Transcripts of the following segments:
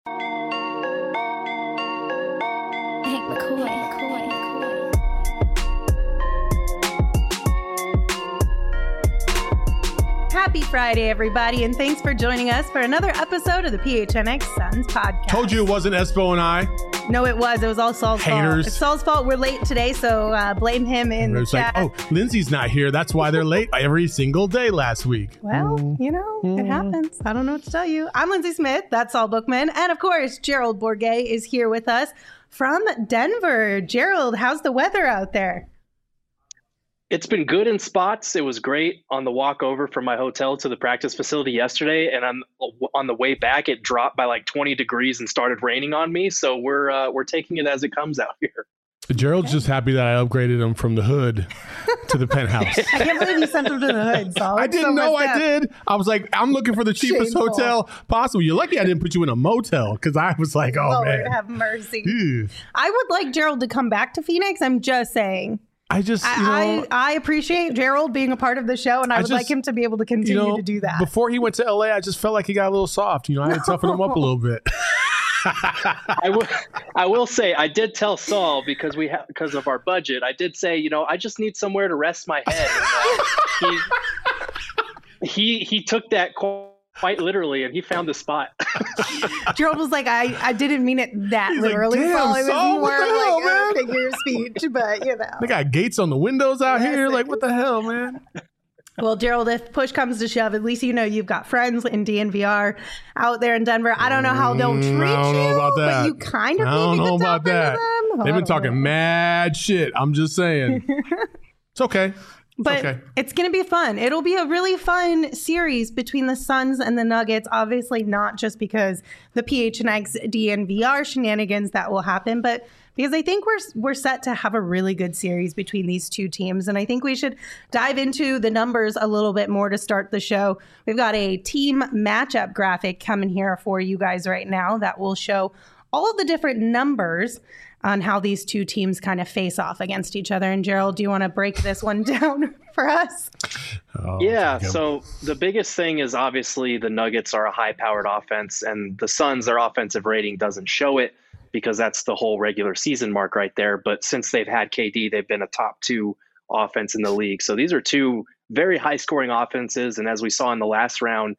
Hank McCoy. Happy Friday, everybody, and thanks for joining us for another episode of the PHNX Suns podcast. Told you it wasn't Espo and I. No, it was. It was all Saul's fault. Haters. It's Saul's fault. We're late today, so blame him in the chat. Like, oh, Lindsay's not here. That's why they're late every single day last week. Well, you know, it happens. I don't know what to tell you. I'm Lindsay Smith. That's Saul Bookman. And of course, Gerald Bourget is here with us from Denver. Gerald, how's the weather out there? It's been good in spots. It was great on the walk over from my hotel to the practice facility yesterday. And on the way back, it dropped by like 20 degrees and started raining on me. So we're taking it as it comes out here. Gerald's just happy that I upgraded him from the hood to the penthouse. I can't believe you sent him to the hood, Saul. I didn't know I did. I was like, I'm looking for the cheapest Shameful. hotel possible. You're lucky I didn't put you in a motel because I was like, oh, Lord, man. have mercy. Ew. I would like Gerald to come back to Phoenix. I'm just saying. I appreciate Gerald being a part of the show, and I would like him to be able to continue to do that. Before he went to LA, I just felt like he got a little soft. I had to toughen him up a little bit. I will say I did tell Saul because of our budget. I did say, I just need somewhere to rest my head. And, he took that quite literally, and he found the spot. Gerald was like, I didn't mean it that He's literally. like, damn, Saul. It was Saul, more what the hell, like man? a figure of speech, but They got gates on the windows out here. Listen. Like, what the hell, man? Well, Gerald, if push comes to shove, at least you've got friends in DNVR out there in Denver. I don't know how they'll treat you, I don't know about that. but you kind of I don't maybe know could about tap into that. them. They've been talking mad shit. I'm just saying. It's okay. But it's going to be fun. It'll be a really fun series between the Suns and the Nuggets. Obviously, not just because the PHNX DNVR shenanigans that will happen, but because I think we're set to have a really good series between these two teams. And I think we should dive into the numbers a little bit more to start the show. We've got a team matchup graphic coming here for you guys right now that will show all of the different numbers on how these two teams kind of face off against each other. And Gerald, do you want to break this one down for us? Yeah, so the biggest thing is obviously the Nuggets are a high-powered offense, and the Suns, their offensive rating doesn't show it because that's the whole regular season mark right there. But since they've had KD, they've been a top 2 offense in the league. So these are two very high-scoring offenses, and as we saw in the last round,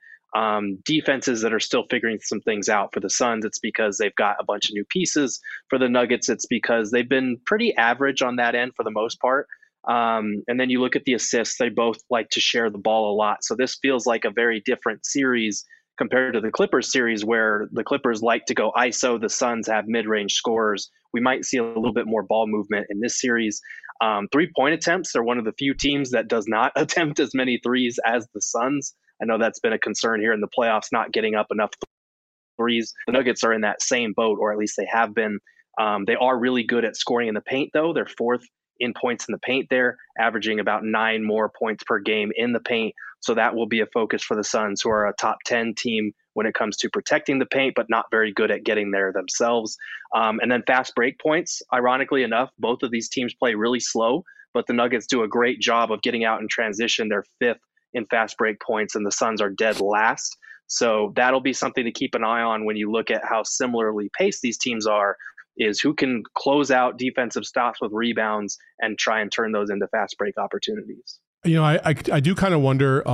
defenses that are still figuring some things out. For the Suns, it's because they've got a bunch of new pieces. For the Nuggets, it's because they've been pretty average on that end for the most part. And then you look at the assists, they both like to share the ball a lot. So this feels like a very different series compared to the Clippers series, where the Clippers like to go ISO, the Suns have mid-range scorers. We might see a little bit more ball movement in this series. 3-point attempts, they're one of the few teams that does not attempt as many threes as the Suns. I know that's been a concern here in the playoffs, not getting up enough threes. The Nuggets are in that same boat, or at least they have been. They are really good at scoring in the paint, though. They're 4th in points in the paint there, averaging about 9 more points per game in the paint. So that will be a focus for the Suns, who are a top 10 team when it comes to protecting the paint, but not very good at getting there themselves. And then fast break points. Ironically enough, both of these teams play really slow, but the Nuggets do a great job of getting out in transition. They're 5th in fast break points, and the Suns are dead last. So that'll be something to keep an eye on when you look at how similarly paced these teams are, is who can close out defensive stops with rebounds and try and turn those into fast break opportunities. I do kind of wonder,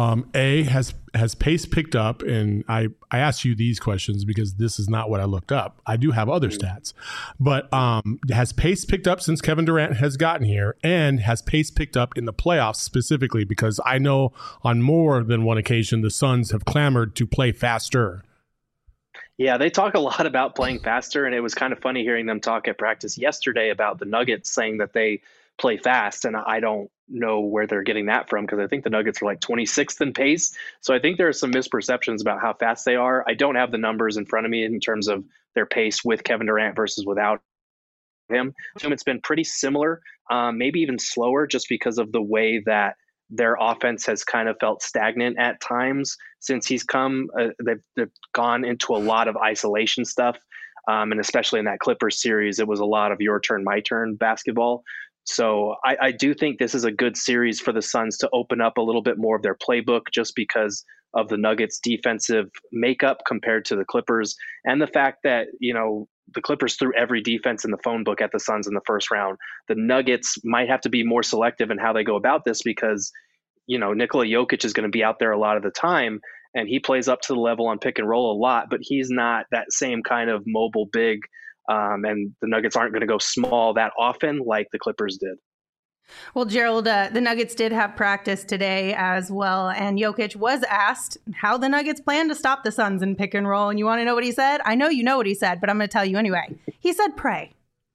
has pace picked up? And I asked you these questions because this is not what I looked up. I do have other stats, but has pace picked up since Kevin Durant has gotten here? And has pace picked up in the playoffs specifically? Because I know on more than one occasion, the Suns have clamored to play faster. Yeah, they talk a lot about playing faster, and it was kind of funny hearing them talk at practice yesterday about the Nuggets saying that they play fast, and I don't know where they're getting that from, because I think the Nuggets are like 26th in pace. So I think there are some misperceptions about how fast they are. I don't have the numbers in front of me in terms of their pace with Kevin Durant versus without him. It's been pretty similar, maybe even slower, just because of the way that their offense has kind of felt stagnant at times since he's come. They've gone into a lot of isolation stuff. And especially in that Clippers series, it was a lot of your turn, my turn basketball. So I do think this is a good series for the Suns to open up a little bit more of their playbook, just because of the Nuggets' defensive makeup compared to the Clippers, and the fact that, the Clippers threw every defense in the phone book at the Suns in the first round. The Nuggets might have to be more selective in how they go about this because, Nikola Jokic is going to be out there a lot of the time, and he plays up to the level on pick and roll a lot, but he's not that same kind of mobile big. And the Nuggets aren't going to go small that often like the Clippers did. Well, Gerald, the Nuggets did have practice today as well, and Jokic was asked how the Nuggets plan to stop the Suns in pick and roll. And you want to know what he said? I know you know what he said, but I'm going to tell you anyway. He said, pray.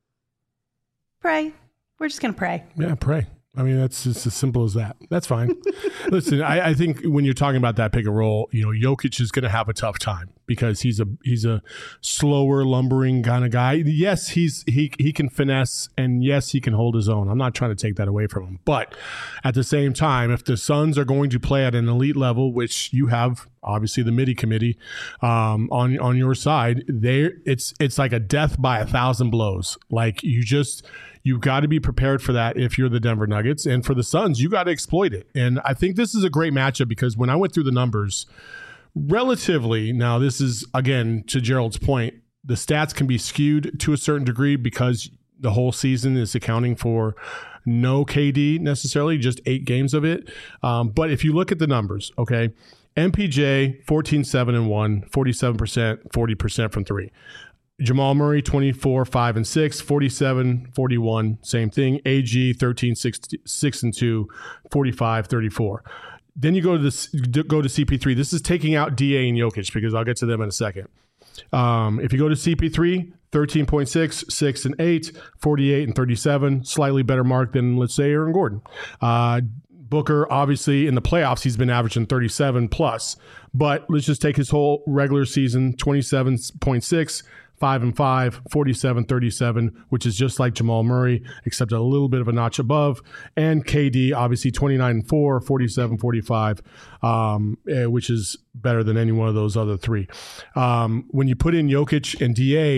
Pray. We're just going to pray. Yeah, pray. I mean, that's just as simple as that. That's fine. Listen, I think when you're talking about that pick and roll, Jokic is going to have a tough time because he's a slower, lumbering kind of guy. Yes, he can finesse, and yes, he can hold his own. I'm not trying to take that away from him. But at the same time, if the Suns are going to play at an elite level, which you have obviously the MIDI committee on your side, it's like a death by 1,000 blows. Like you've got to be prepared for that if you're the Denver Nuggets. And for the Suns, you got to exploit it. And I think this is a great matchup because when I went through the numbers, relatively, now this is, again, to Gerald's point, the stats can be skewed to a certain degree because the whole season is accounting for no KD necessarily, just 8 games of it. But if you look at the numbers, okay, MPJ, 14-7-1, 47%, 40% from 3. Jamal Murray, 24, 5 and 6, 47, 41, same thing. AG, 13, 6 and 2, 45, 34. Then you go to CP3. This is taking out DA and Jokic because I'll get to them in a second. If you go to CP3, 13.6, 6 and 8, 48 and 37, slightly better mark than, let's say, Aaron Gordon. Booker, obviously, in the playoffs, he's been averaging 37 plus. But let's just take his whole regular season, 27.6, 5 and 5, 47, 37, which is just like Jamal Murray, except a little bit of a notch above. And KD, obviously 29 and 4, 47, 45, which is better than any one of those other 3. When you put in Jokic and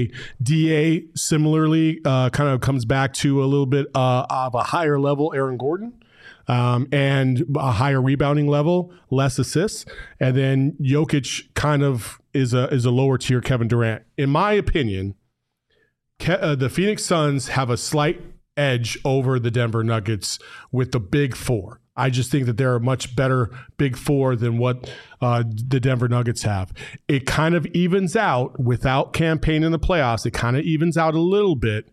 DA similarly kind of comes back to a little bit of a higher level Aaron Gordon. And a higher rebounding level, less assists. And then Jokic kind of is a lower tier Kevin Durant. In my opinion, the Phoenix Suns have a slight edge over the Denver Nuggets with the big 4. I just think that they're a much better big 4 than what the Denver Nuggets have. It kind of evens out without campaign in the playoffs. It kind of evens out a little bit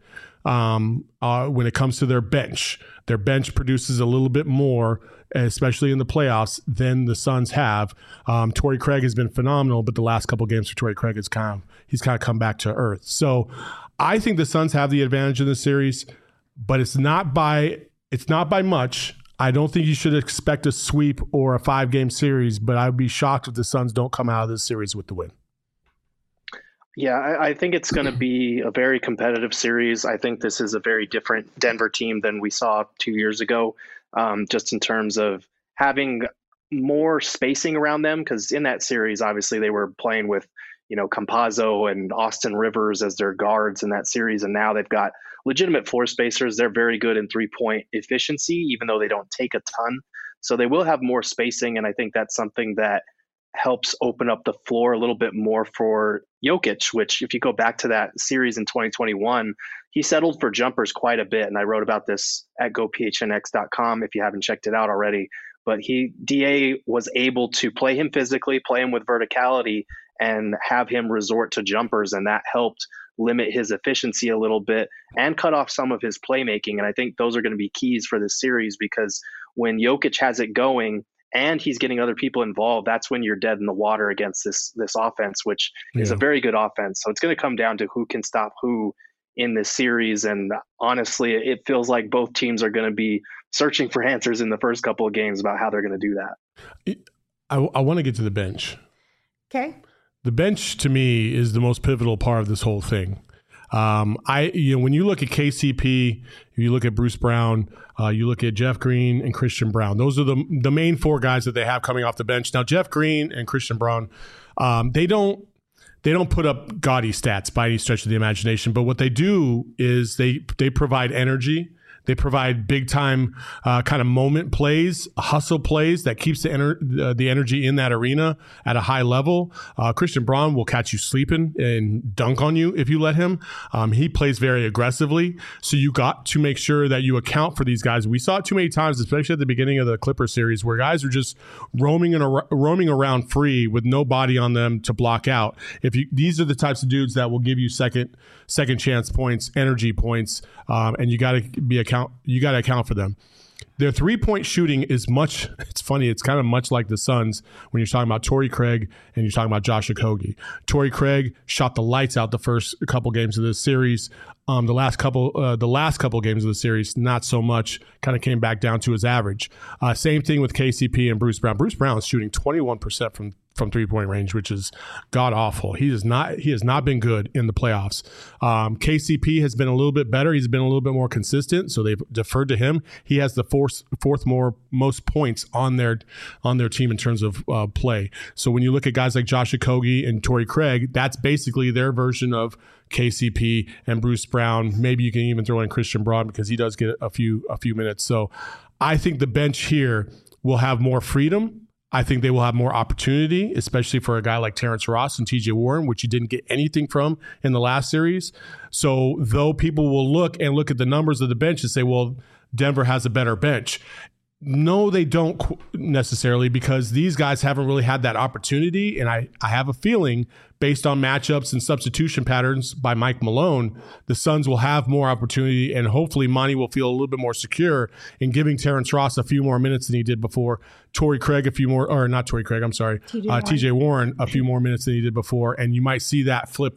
when it comes to their bench. Their bench produces a little bit more, especially in the playoffs, than the Suns have. Torrey Craig has been phenomenal, but the last couple of games for Torrey Craig he's kind of come back to earth. So I think the Suns have the advantage in this series, but it's not by much. I don't think you should expect a sweep or a 5-game series, but I'd be shocked if the Suns don't come out of this series with the win. Yeah, I think it's going to be a very competitive series. I think this is a very different Denver team than we saw 2 years ago, just in terms of having more spacing around them. Because in that series, obviously, they were playing with, Campazzo and Austin Rivers as their guards in that series. And now they've got legitimate floor spacers. They're very good in 3-point efficiency, even though they don't take a ton. So they will have more spacing. And I think that's something that helps open up the floor a little bit more for Jokic, which if you go back to that series in 2021, he settled for jumpers quite a bit. And I wrote about this at gophnx.com if you haven't checked it out already. But DA was able to play him physically, play him with verticality, and have him resort to jumpers. And that helped limit his efficiency a little bit and cut off some of his playmaking. And I think those are going to be keys for this series, because when Jokic has it going, and he's getting other people involved, that's when you're dead in the water against this offense, which is a very good offense. So it's going to come down to who can stop who in this series. And honestly, it feels like both teams are going to be searching for answers in the first couple of games about how they're going to do that. I want to get to the bench. Okay. The bench, to me, is the most pivotal part of this whole thing. When you look at KCP, if you look at Bruce Brown, you look at Jeff Green and Christian Brown. Those are the main 4 guys that they have coming off the bench. Now, Jeff Green and Christian Brown, they don't put up gaudy stats by any stretch of the imagination. But what they do is they provide energy. They provide big time kind of moment plays, hustle plays that keeps the energy in that arena at a high level. Christian Braun will catch you sleeping and dunk on you if you let him. He plays very aggressively. So you got to make sure that you account for these guys. We saw it too many times, especially at the beginning of the Clippers series, where guys are just roaming around free with no body on them to block out. These are the types of dudes that will give you second chance points, energy points, and you got to account for them. Their 3-point shooting is much. It's funny. It's kind of much like the Suns when you're talking about Torrey Craig and you're talking about Josh Okogie. Torrey Craig shot the lights out the first couple games of this series. The last couple games of the series, not so much. Kind of came back down to his average. Same thing with KCP and Bruce Brown. Bruce Brown is shooting 21% from 3-point range, which is god awful. He has not been good in the playoffs. KCP has been a little bit better. He's been a little bit more consistent, so they've deferred to him. He has the fourth most points on their team in terms of play. So when you look at guys like Josh Okogie and Torrey Craig, that's basically their version of KCP and Bruce Brown. Maybe you can even throw in Christian Braun because he does get a few minutes. So I think the bench here will have more freedom. I think they will have more opportunity, especially for a guy like Terrence Ross and TJ Warren, which you didn't get anything from in the last series. So though people will look at the numbers of the bench and say, well, Denver has a better bench. No, they don't necessarily, because these guys haven't really had that opportunity. And I have a feeling, based on matchups and substitution patterns by Mike Malone, the Suns will have more opportunity, and hopefully Monty will feel a little bit more secure in giving Terrence Ross a few more minutes than he did before, TJ Warren a few more minutes than he did before, and you might see that flip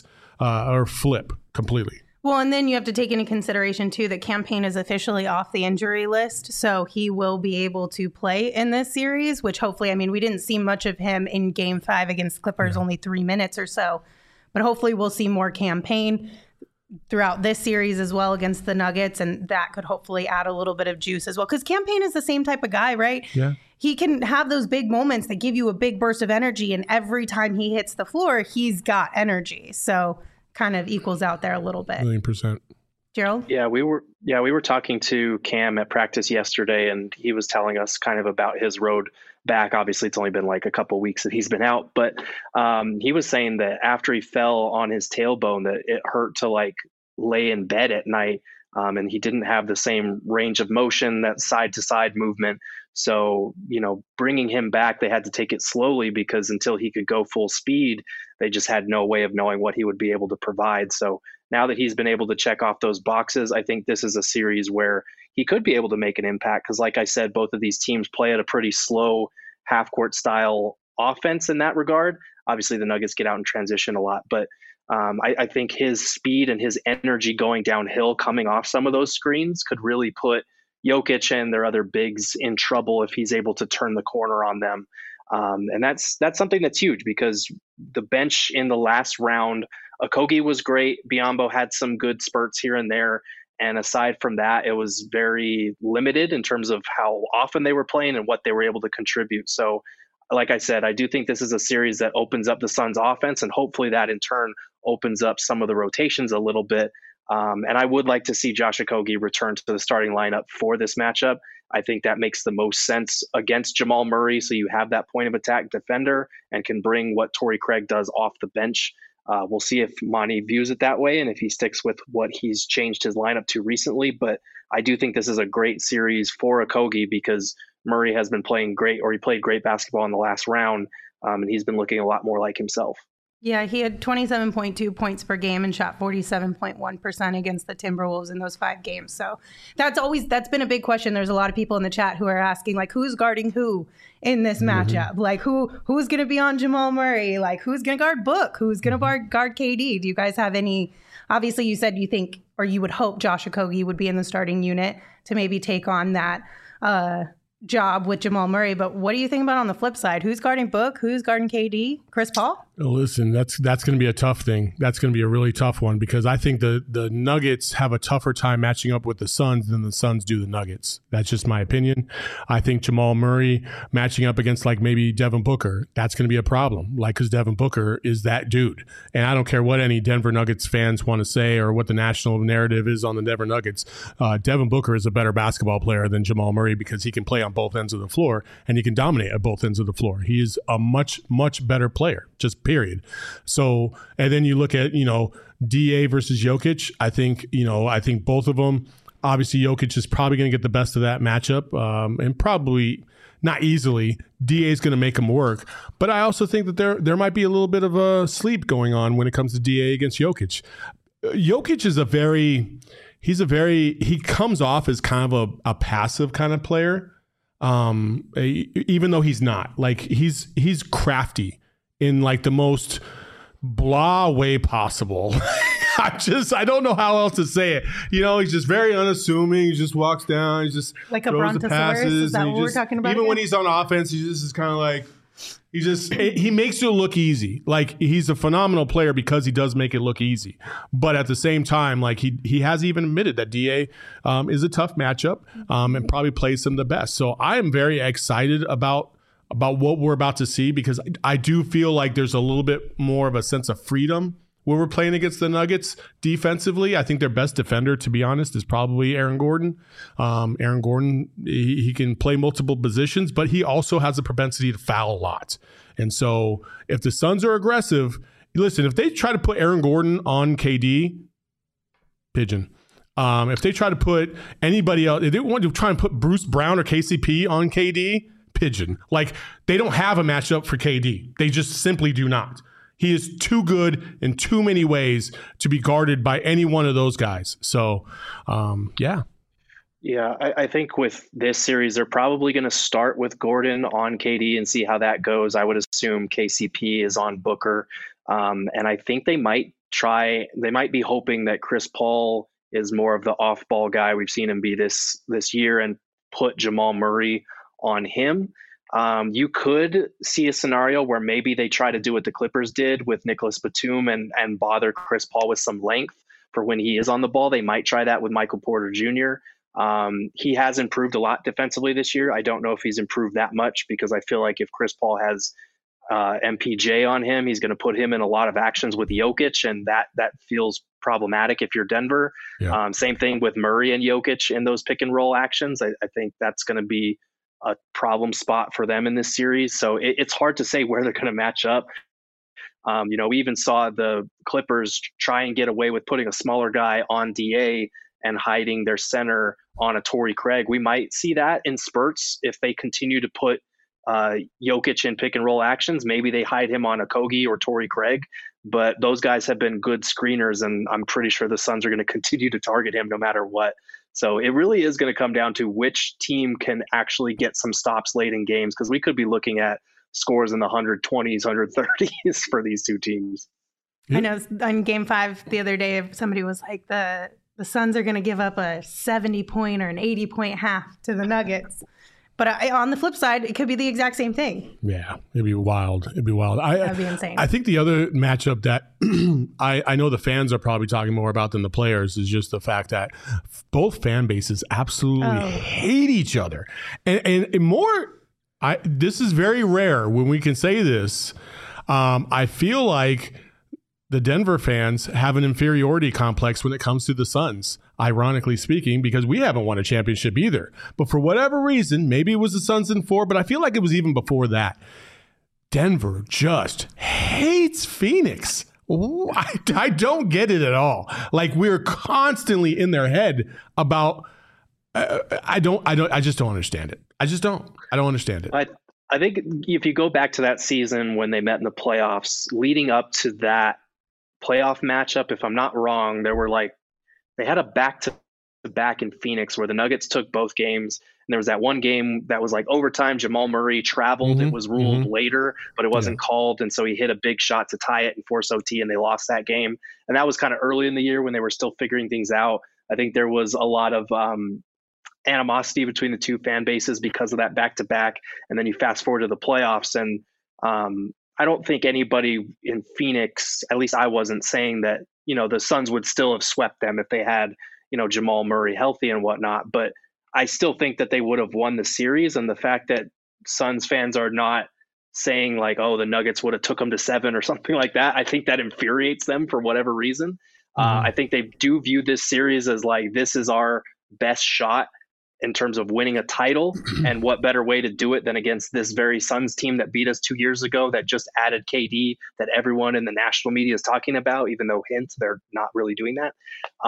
completely. Well, and then you have to take into consideration, too, that Cam Payne is officially off the injury list, so he will be able to play in this series, which hopefully, we didn't see much of him in Game 5 against Clippers, only 3 minutes or so. But hopefully we'll see more Cam Payne throughout this series as well against the Nuggets, and that could hopefully add a little bit of juice as well. Because Cam Payne is the same type of guy, right? Yeah. He can have those big moments that give you a big burst of energy, and every time he hits the floor, he's got energy. So kind of equals out there a little bit. 1,000,000%. Gerald? Yeah, we were talking to Cam at practice yesterday, and he was telling us kind of about his road back. Obviously, it's only been like a couple weeks that he's been out, but he was saying that after he fell on his tailbone, that it hurt to like lay in bed at night, and he didn't have the same range of motion, that side to side movement. So, bringing him back, they had to take it slowly, because until he could go full speed, they just had no way of knowing what he would be able to provide. So now that he's been able to check off those boxes, I think this is a series where he could be able to make an impact. Because like I said, both of these teams play at a pretty slow half-court style offense in that regard. Obviously, the Nuggets get out in transition a lot, but I think his speed and his energy going downhill, coming off some of those screens, could really put Jokic and their other bigs in trouble if he's able to turn the corner on them. And that's something that's huge, because the bench in the last round, Okogie was great. Biyombo had some good spurts here and there. And aside from that, it was very limited in terms of how often they were playing and what they were able to contribute. So like I said, I do think this is a series that opens up the Suns offense, and hopefully that in turn opens up some of the rotations a little bit. And I would like to see Josh Okogie return to the starting lineup for this matchup. I think that makes the most sense against Jamal Murray. So you have that point of attack defender and can bring what Torrey Craig does off the bench. We'll see if Monty views it that way and if he sticks with what he's changed his lineup to recently. But I do think this is a great series for Okogie, because Murray has been playing great, or he played great basketball in the last round, and he's been looking a lot more like himself. Yeah, he had 27.2 points per game and shot 47.1% against the Timberwolves in those 5 games. So that's been a big question. There's a lot of people in the chat who are asking, like, who's guarding who in this matchup? Like, who's going to be on Jamal Murray? Like, who's going to guard Book? Who's going to guard KD? Do you guys have any? Obviously, you said you think, or you would hope, Josh Okogie would be in the starting unit to maybe take on that job with Jamal Murray. But what do you think about on the flip side? Who's guarding Book? Who's guarding KD? Chris Paul? Listen, that's going to be a tough thing. That's going to be a really tough one because I think the Nuggets have a tougher time matching up with the Suns than the Suns do the Nuggets. That's just my opinion. I think Jamal Murray matching up against like maybe Devin Booker, that's going to be a problem. Like, because Devin Booker is that dude. And I don't care what any Denver Nuggets fans want to say or what the national narrative is on the Denver Nuggets. Devin Booker is a better basketball player than Jamal Murray because he can play on both ends of the floor and he can dominate at both ends of the floor. He is a much, much better player, just period. So, and then you look at, DA versus Jokic. I think both of them, obviously Jokic is probably going to get the best of that matchup, and probably not easily. DA is going to make him work. But I also think that there might be a little bit of a sleep going on when it comes to DA against Jokic. Jokic is he comes off as kind of a passive kind of player. Even though he's not, like, he's crafty in like the most blah way possible. I don't know how else to say it. He's just very unassuming. He just walks down. He just like a brontosaurus. Is that what we're talking about? Even when he's on offense, he just is kind of like, he makes it look easy. Like, he's a phenomenal player because he does make it look easy. But at the same time, like, he has even admitted that DA is a tough matchup and probably plays him the best. So I am very excited about what we're about to see because I do feel like there's a little bit more of a sense of freedom when we're playing against the Nuggets defensively. I think their best defender, to be honest, is probably Aaron Gordon. Aaron Gordon, he can play multiple positions, but he also has a propensity to foul a lot. And so if the Suns are aggressive, listen, if they try to put Aaron Gordon on KD, pigeon. If they try to put anybody else, if they want to try and put Bruce Brown or KCP on KD, pigeon. Like, they don't have a matchup for KD. They just simply do not. He is too good in too many ways to be guarded by any one of those guys. So, yeah. Yeah, I think with this series, they're probably going to start with Gordon on KD and see how that goes. I would assume KCP is on Booker. And I think they might be hoping that Chris Paul is more of the off-ball guy. We've seen him be this year, and put Jamal Murray on him. You could see a scenario where maybe they try to do what the Clippers did with Nicholas Batum and bother Chris Paul with some length for when he is on the ball. They might try that with Michael Porter Jr. He has improved a lot defensively this year. I don't know if he's improved that much because I feel like if Chris Paul has MPJ on him, he's going to put him in a lot of actions with Jokic, and that feels problematic if you're Denver. Yeah. Same thing with Murray and Jokic in those pick and roll actions. I think that's going to be a problem spot for them in this series. So it's hard to say where they're going to match up. We even saw the Clippers try and get away with putting a smaller guy on DA and hiding their center on a Torrey Craig. We might see that in spurts if they continue to put Jokic in pick and roll actions. Maybe they hide him on a Kogi or Torrey Craig, but those guys have been good screeners, and I'm pretty sure the Suns are going to continue to target him no matter what. So it really is going to come down to which team can actually get some stops late in games, because we could be looking at scores in the 120s, 130s for these two teams. I know on Game 5 the other day, somebody was like, the Suns are going to give up a 70-point or an 80-point half to the Nuggets. But on the flip side, it could be the exact same thing. Yeah, it'd be wild. That'd be insane. I think the other matchup that I know the fans are probably talking more about than the players is just the fact that both fan bases absolutely hate each other. And more, this is very rare when we can say this. I feel like the Denver fans have an inferiority complex when it comes to the Suns, ironically speaking, because we haven't won a championship either. But for whatever reason, maybe it was the Suns in 4, but I feel like it was even before that. Denver just hates Phoenix. I don't get it at all. Like, we're constantly in their head about. I just don't understand it. I don't understand it. I think if you go back to that season when they met in the playoffs, leading up to that playoff matchup, if I'm not wrong, they had a back-to-back in Phoenix where the Nuggets took both games. And there was that one game that was like overtime. Jamal Murray traveled. It was ruled later, but it wasn't called. And so he hit a big shot to tie it and force OT, and they lost that game. And that was kind of early in the year when they were still figuring things out. I think there was a lot of animosity between the two fan bases because of that back-to-back. And then you fast forward to the playoffs, and I don't think anybody in Phoenix, at least I wasn't saying that, the Suns would still have swept them if they had, Jamal Murray healthy and whatnot. But I still think that they would have won the series. And the fact that Suns fans are not saying like, oh, the Nuggets would have took them to 7 or something like that, I think that infuriates them for whatever reason. I think they do view this series as like, this is our best shot in terms of winning a title. And what better way to do it than against this very Suns team that beat us 2 years ago, that just added KD, that everyone in the national media is talking about, even though they're not really doing that.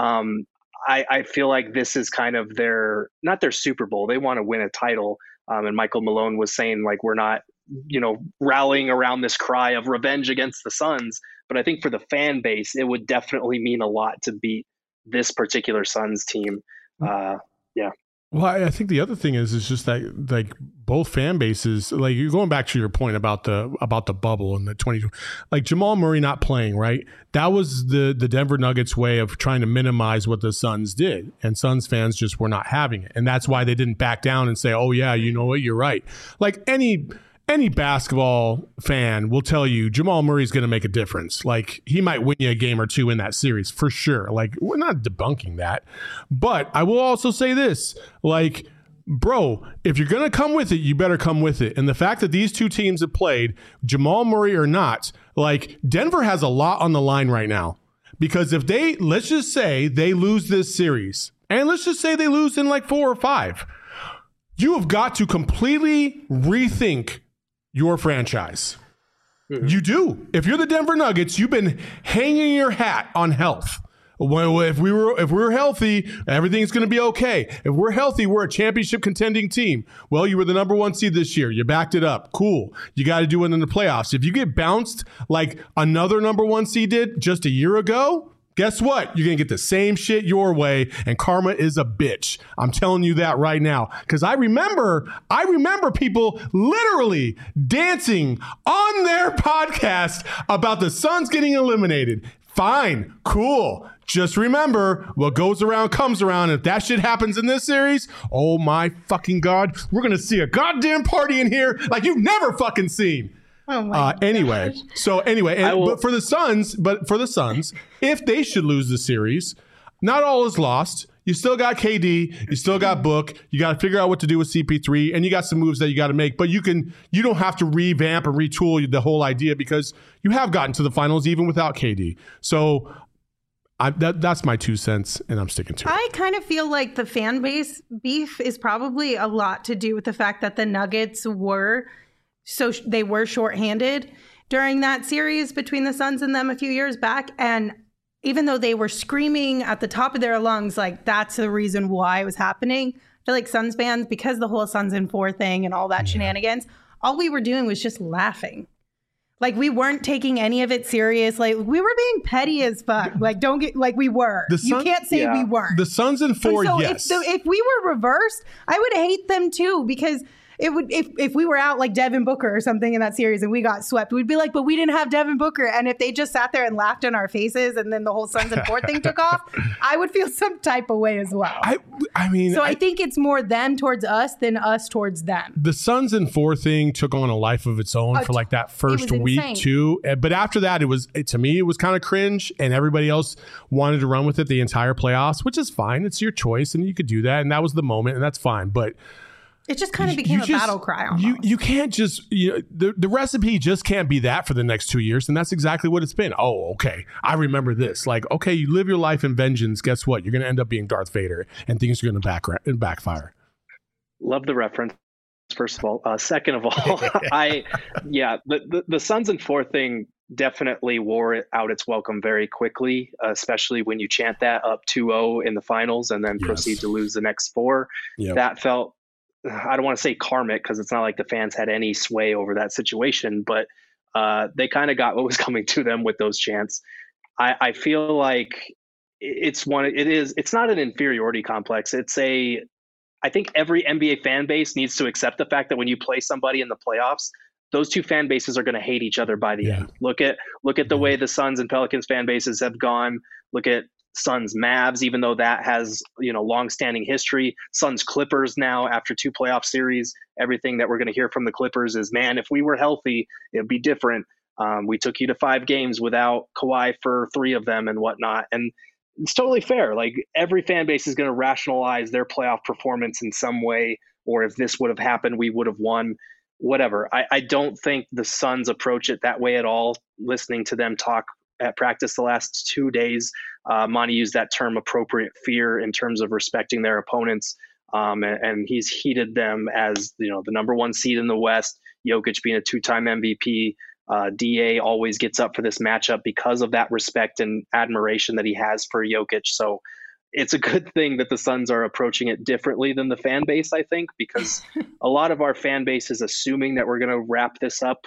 I feel like this is kind of not their Super Bowl. They want to win a title. And Michael Malone was saying like, we're not, rallying around this cry of revenge against the Suns. But I think for the fan base, it would definitely mean a lot to beat this particular Suns team. Yeah. Well, I think the other thing is just that like both fan bases, like you're going back to your point about the bubble and the 20, like Jamal Murray not playing, right? That was the Denver Nuggets way of trying to minimize what the Suns did, and Suns fans just were not having it, and that's why they didn't back down and say, "Oh yeah, you know what, you're right." Like any basketball fan will tell you Jamal Murray's going to make a difference. Like he might win you a game or two in that series for sure. Like we're not debunking that. But I will also say this, like, bro, if you're going to come with it, you better come with it. And the fact that these two teams have played, Jamal Murray or not, like Denver has a lot on the line right now. Because if let's just say they lose this series, and let's just say they lose in like 4 or 5, you have got to completely rethink your franchise. Mm-hmm. You do. If you're the Denver Nuggets, you've been hanging your hat on health. Well, if we were healthy, everything's going to be okay. If we're healthy, we're a championship contending team. Well, you were the number 1 seed this year. You backed it up. Cool. You got to do it in the playoffs. If you get bounced like another number 1 seed did just a year ago, guess what? You're going to get the same shit your way, and karma is a bitch. I'm telling you that right now. Because I remember people literally dancing on their podcast about the Suns getting eliminated. Fine, cool. Just remember, what goes around comes around. If that shit happens in this series, oh my fucking God, we're going to see a goddamn party in here like you've never fucking seen. Oh my anyway, gosh. so anyway, but for the Suns, if they should lose the series, not all is lost. You still got KD, you still got Book, you got to figure out what to do with CP3, and you got some moves that you got to make. But you don't have to revamp and retool the whole idea because you have gotten to the finals even without KD. So that's my 2 cents, and I'm sticking to it. I kind of feel like the fan base beef is probably a lot to do with the fact that the Nuggets were shorthanded during that series between the Suns and them a few years back. And even though they were screaming at the top of their lungs, like that's the reason why it was happening, I feel like Suns fans, because the whole Suns in 4 thing and all that shenanigans, all we were doing was just laughing. Like we weren't taking any of it serious. Like we were being petty as fuck. Like we were. You can't say we weren't. The Suns in 4, yes. If we were reversed, I would hate them too, because it would, if we were out like Devin Booker or something in that series and we got swept, we'd be like, but we didn't have Devin Booker. And if they just sat there and laughed in our faces and then the whole Suns and 4 thing took off, I would feel some type of way as well. I think it's more them towards us than us towards them. The Suns and 4 thing took on a life of its own for like that first week too. But after that, to me, it was kind of cringe, and everybody else wanted to run with it the entire playoffs, which is fine. It's your choice and you could do that. And that was the moment, and that's fine. But it just kind of became a battle cry almost. You can't just, the recipe just can't be that for the next 2 years. And that's exactly what it's been. Oh, okay. I remember this. Like, okay, you live your life in vengeance. Guess what? You're going to end up being Darth Vader, and things are going to backfire. Love the reference, first of all. Second of all, the Suns and 4 thing definitely wore out its welcome very quickly, especially when you chant that up 2-0 in the finals and then proceed to lose the next 4. Yep. That felt, I don't want to say karmic, because it's not like the fans had any sway over that situation, but they kind of got what was coming to them with those chants. I feel like it's not an inferiority complex. I think every NBA fan base needs to accept the fact that when you play somebody in the playoffs, those two fan bases are going to hate each other by the end. Look at the way the Suns and Pelicans fan bases have gone. Look at Suns Mavs, even though that has long-standing history. Suns Clippers now, after 2 playoff series, everything that we're going to hear from the Clippers is, man, if we were healthy, it'd be different. We took you to 5 games without Kawhi for 3 of them and whatnot. And it's totally fair. Like, every fan base is going to rationalize their playoff performance in some way, or if this would have happened, we would have won, whatever. I don't think the Suns approach it that way at all. Listening to them talk at practice the last 2 days, Monty used that term appropriate fear in terms of respecting their opponents. And he's heated them as, the number 1 seed in the West, Jokic being a 2-time MVP. DA always gets up for this matchup because of that respect and admiration that he has for Jokic. So it's a good thing that the Suns are approaching it differently than the fan base, I think, because a lot of our fan base is assuming that we're going to wrap this up.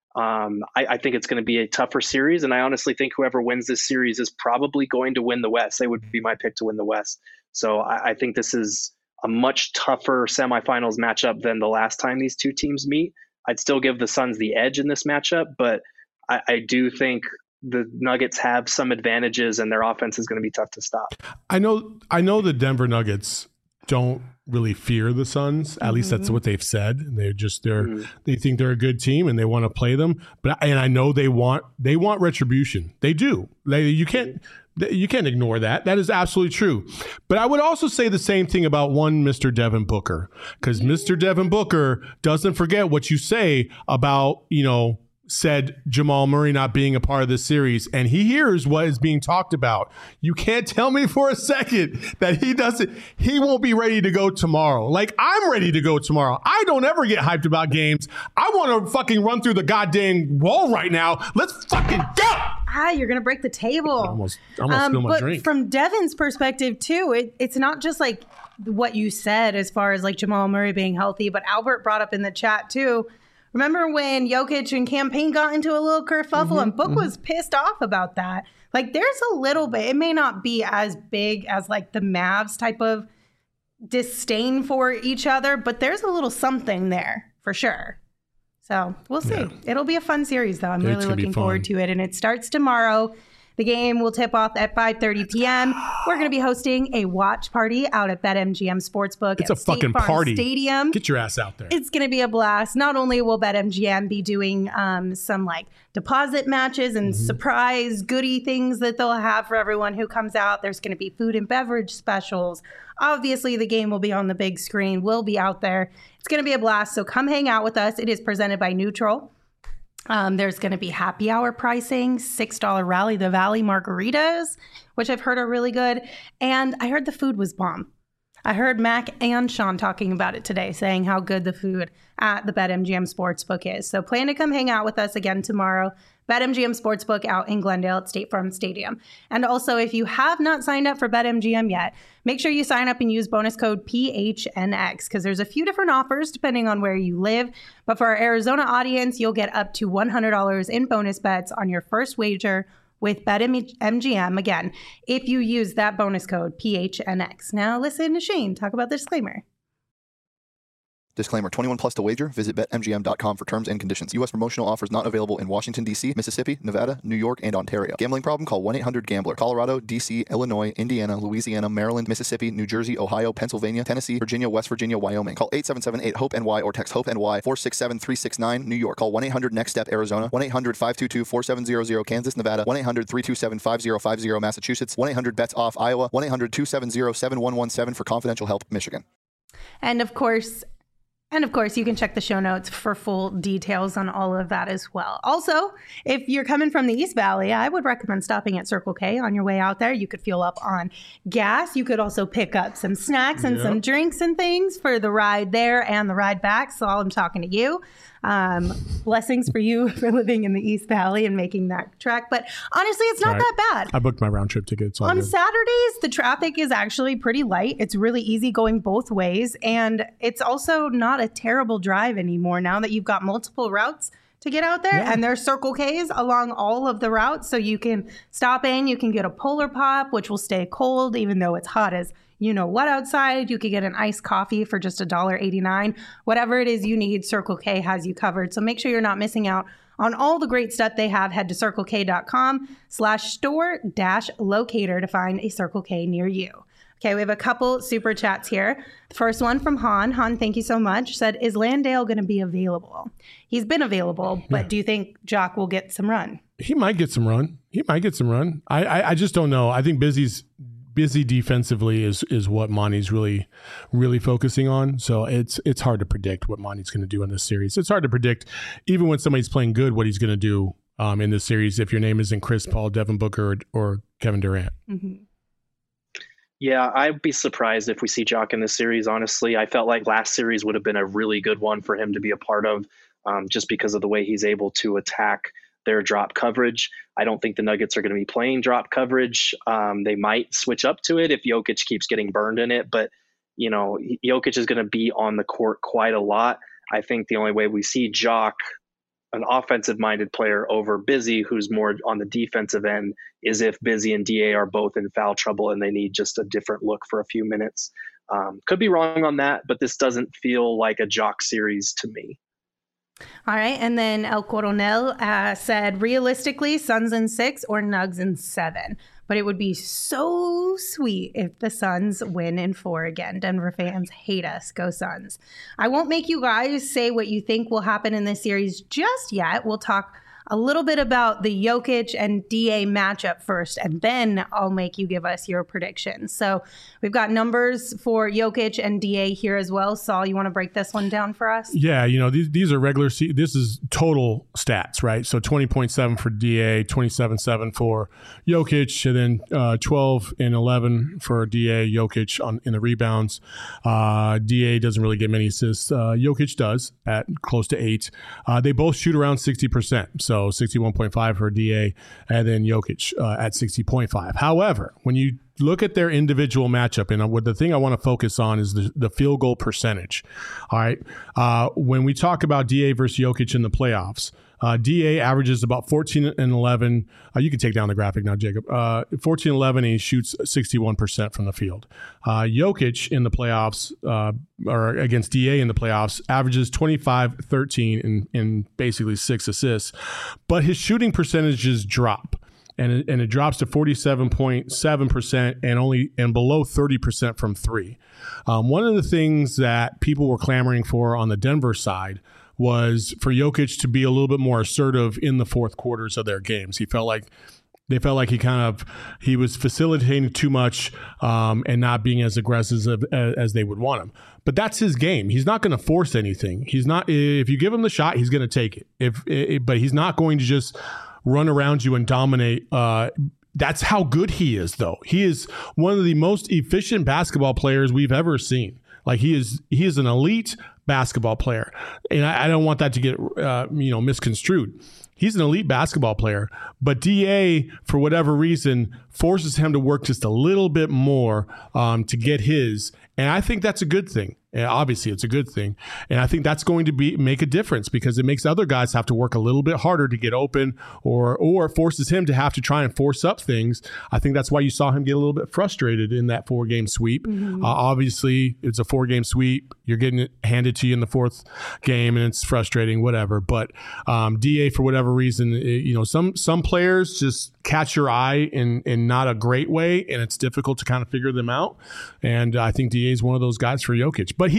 I think it's going to be a tougher series, and I honestly think whoever wins this series is probably going to win the West. They would be my pick to win the West. So I think this is a much tougher semifinals matchup than the last time these two teams meet. I'd still give the Suns the edge in this matchup, but I do think the Nuggets have some advantages, and their offense is going to be tough to stop. I know the Denver Nuggets don't really fear the Suns. At least that's what they've said. They think they're a good team and they want to play them. And I know they want retribution. They do. You can't ignore that. That is absolutely true. But I would also say the same thing about one Mr. Devin Booker, because Mr. Devin Booker doesn't forget what you say about, said Jamal Murray not being a part of this series, and he hears what is being talked about. You can't tell me for a second that he won't be ready to go tomorrow. Like, I'm ready to go tomorrow. I don't ever get hyped about games. I want to fucking run through the goddamn wall right now. Let's fucking go. You're going to break the table. I almost spilled my drink. From Devin's perspective too, it's not just like what you said as far as like Jamal Murray being healthy, but Albert brought up in the chat too. Remember when Jokic and Cam Payne got into a little kerfuffle and Book was pissed off about that? Like, there's a little bit, it may not be as big as like the Mavs type of disdain for each other, but there's a little something there for sure. So we'll see. Yeah. It'll be a fun series though. I'm really looking forward to it. And it starts tomorrow. The game will tip off at 5:30 p.m. We're going to be hosting a watch party out at BetMGM Sportsbook. It's a fucking party. Stadium. Get your ass out there. It's going to be a blast. Not only will BetMGM be doing some like deposit matches and surprise goodie things that they'll have for everyone who comes out. There's going to be food and beverage specials. Obviously, the game will be on the big screen. We'll be out there. It's going to be a blast. So come hang out with us. It is presented by Neutral. There's going to be happy hour pricing, $6 Rally the Valley margaritas, which I've heard are really good. And I heard the food was bomb. I heard Mac and Sean talking about it today, saying how good the food at the BetMGM Sportsbook is. So plan to come hang out with us again tomorrow. BetMGM Sportsbook out in Glendale at State Farm Stadium. And also, if you have not signed up for BetMGM yet, make sure you sign up and use bonus code PHNX, because there's a few different offers depending on where you live. But for our Arizona audience, you'll get up to $100 in bonus bets on your first wager with BetMGM, again, if you use that bonus code PHNX. Now listen to Shane talk about the disclaimer. Disclaimer, 21 plus to wager. Visit BetMGM.com for terms and conditions. U.S. promotional offers not available in Washington, D.C., Mississippi, Nevada, New York, and Ontario. Gambling problem? Call 1-800-GAMBLER. Colorado, D.C., Illinois, Indiana, Louisiana, Maryland, Mississippi, New Jersey, Ohio, Pennsylvania, Tennessee, Virginia, West Virginia, Wyoming. Call 877-8-HOPE-NY or text HOPE-NY 467-369, New York. Call 1-800-NEXT-STEP, Arizona. 1-800-522-4700, Kansas, Nevada. 1-800-327-5050, Massachusetts. 1-800-BETS-OFF, Iowa. 1-800-270-7117 for confidential help, Michigan. And of course, you can check the show notes for full details on all of that as well. Also, if you're coming from the East Valley, I would recommend stopping at Circle K on your way out there. You could fuel up on gas. You could also pick up some snacks and some drinks and things for the ride there and the ride back. So I'm talking to you. Blessings for you for living in the East Valley and making that trek. But honestly, it's not that bad. I booked my round trip tickets. On Saturdays, the traffic is actually pretty light. It's really easy going both ways. And it's also not a terrible drive anymore now that you've got multiple routes to get out there. And there's Circle K's along all of the routes. So you can stop in, you can get a Polar Pop, which will stay cold even though it's hot as you know what outside. You could get an iced coffee for just $1.89. Whatever it is you need, Circle K has you covered. So make sure you're not missing out on all the great stuff they have. Head to circlek.com/store-locator to find a Circle K near you. Okay, we have a couple super chats here. The first one from Han. Han, thank you so much. Said, is Landale going to be available? He's been available, but do you think Jock will get some run? He might get some run. I just don't know. I think busy defensively is what Monty's really focusing on. So it's hard to predict what Monty's going to do in this series. It's hard to predict, even when somebody's playing good, what he's going to do in this series if your name isn't Chris Paul, Devin Booker, or Kevin Durant. Mm-hmm. Yeah, I'd be surprised if we see Jock in this series, honestly. I felt like last series would have been a really good one for him to be a part of, just because of the way he's able to attack their drop coverage. I don't think the Nuggets are going to be playing drop coverage. They might switch up to it if Jokic keeps getting burned in it, but Jokic is going to be on the court quite a lot. I think the only way we see Jock, an offensive-minded player, over Busy, who's more on the defensive end, is if Busy and DA are both in foul trouble and they need just a different look for a few minutes. Could be wrong on that, but this doesn't feel like a Jock series to me. All right, and then El Coronel said, realistically, Suns in 6 or Nugs in 7. But it would be so sweet if the Suns win in 4 again. Denver fans hate us. Go Suns. I won't make you guys say what you think will happen in this series just yet. We'll talk a little bit about the Jokic and DA matchup first, and then I'll make you give us your predictions. So we've got numbers for Jokic and DA here as well. Saul, you want to break this one down for us? Yeah, these are regular this is total stats, right? So 20.7 for DA, 27.7 for Jokic, and then 12 and 11 for DA, Jokic in the rebounds. DA doesn't really get many assists. Jokic does at close to 8. They both shoot around 60%. So 61.5 for DA, and then Jokic at 60.5. However, when you look at their individual matchup, and the thing I want to focus on is the field goal percentage. All right. When we talk about DA versus Jokic in the playoffs, DA averages about 14 and 11. You can take down the graphic now, Jacob. 14 and 11, and he shoots 61% from the field. Jokic in the playoffs, or against DA in the playoffs, averages 25, 13, and basically 6 assists. But his shooting percentages drop. And it drops to 47.7% and below 30% from 3. One of the things that people were clamoring for on the Denver side was for Jokic to be a little bit more assertive in the fourth quarters of their games. They felt like he was facilitating too much and not being as aggressive as they would want him. But that's his game. He's not going to force anything. If you give him the shot, he's going to take it. But he's not going to just run around you and dominate. That's how good he is, though. He is one of the most efficient basketball players we've ever seen. Like he is an elite basketball player, and I don't want that to get misconstrued. He's an elite basketball player, but DA, for whatever reason, forces him to work just a little bit more to get his, and I think that's a good thing. And obviously, it's a good thing, and I think that's going to make a difference because it makes other guys have to work a little bit harder to get open, or forces him to have to try and force up things. I think that's why you saw him get a little bit frustrated in that 4-game sweep. Mm-hmm. Obviously, it's a 4-game sweep. You're getting it handed to you in the 4th game, and it's frustrating, whatever. But DA, for whatever reason, some players just catch your eye in not a great way, and it's difficult to kind of figure them out. And I think DA is one of those guys for Jokic. But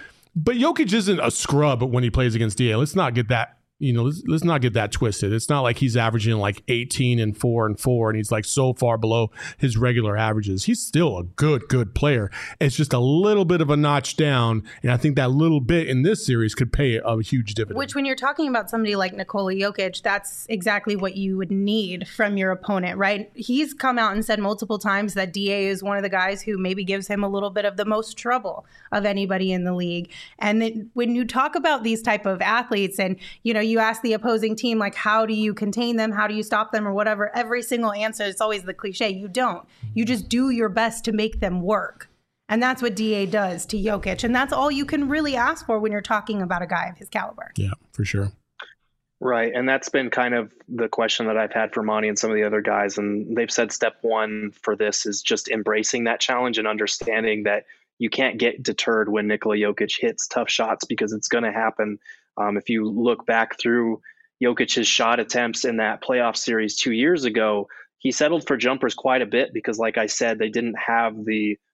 Jokic isn't a scrub when he plays against DA. Let's not get that. Let's not get that twisted. It's not like he's averaging like 18 and 4 and 4, and he's like so far below his regular averages. He's still a good player. It's just a little bit of a notch down, and I think that little bit in this series could pay a huge dividend. Which, when you're talking about somebody like Nikola Jokic, that's exactly what you would need from your opponent, right? He's come out and said multiple times that DA is one of the guys who maybe gives him a little bit of the most trouble of anybody in the league. And then when you talk about these type of athletes, and you ask the opposing team, like, how do you contain them? How do you stop them or whatever? Every single answer, it's always the cliche. You don't. You just do your best to make them work. And that's what DA does to Jokic. And that's all you can really ask for when you're talking about a guy of his caliber. Yeah, for sure. Right. And that's been kind of the question that I've had for Monty and some of the other guys. And they've said step one for this is just embracing that challenge and understanding that you can't get deterred when Nikola Jokic hits tough shots, because it's going to happen. If you look back through Jokic's shot attempts in that playoff series 2 years ago, he settled for jumpers quite a bit because, like I said, they didn't have the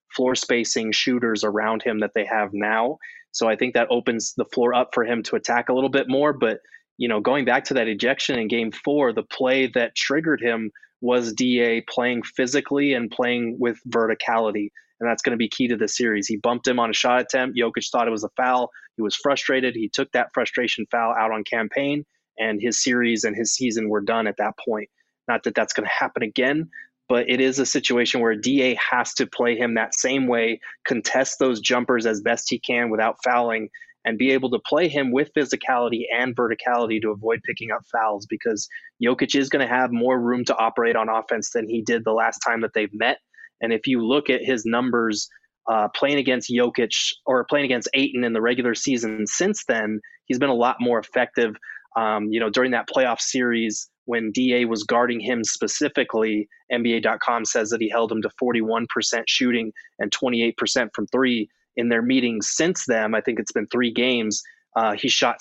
floor spacing shooters around him that they have now. So I think that opens the floor up for him to attack a little bit more. But, going back to that ejection in game 4, the play that triggered him was DA playing physically and playing with verticality. And that's going to be key to the series. He bumped him on a shot attempt. Jokic thought it was a foul. He was frustrated. He took that frustration foul out on Campaign, and his series and his season were done at that point. Not that that's going to happen again, but it is a situation where DA has to play him that same way, contest those jumpers as best he can without fouling, and be able to play him with physicality and verticality to avoid picking up fouls, because Jokic is going to have more room to operate on offense than he did the last time that they've met. And if you look at his numbers playing against Jokic or playing against Ayton in the regular season since then, he's been a lot more effective. During that playoff series when DA was guarding him specifically, NBA.com says that he held him to 41% shooting and 28% from three. In their meetings since then, I think it's been 3 games, he shot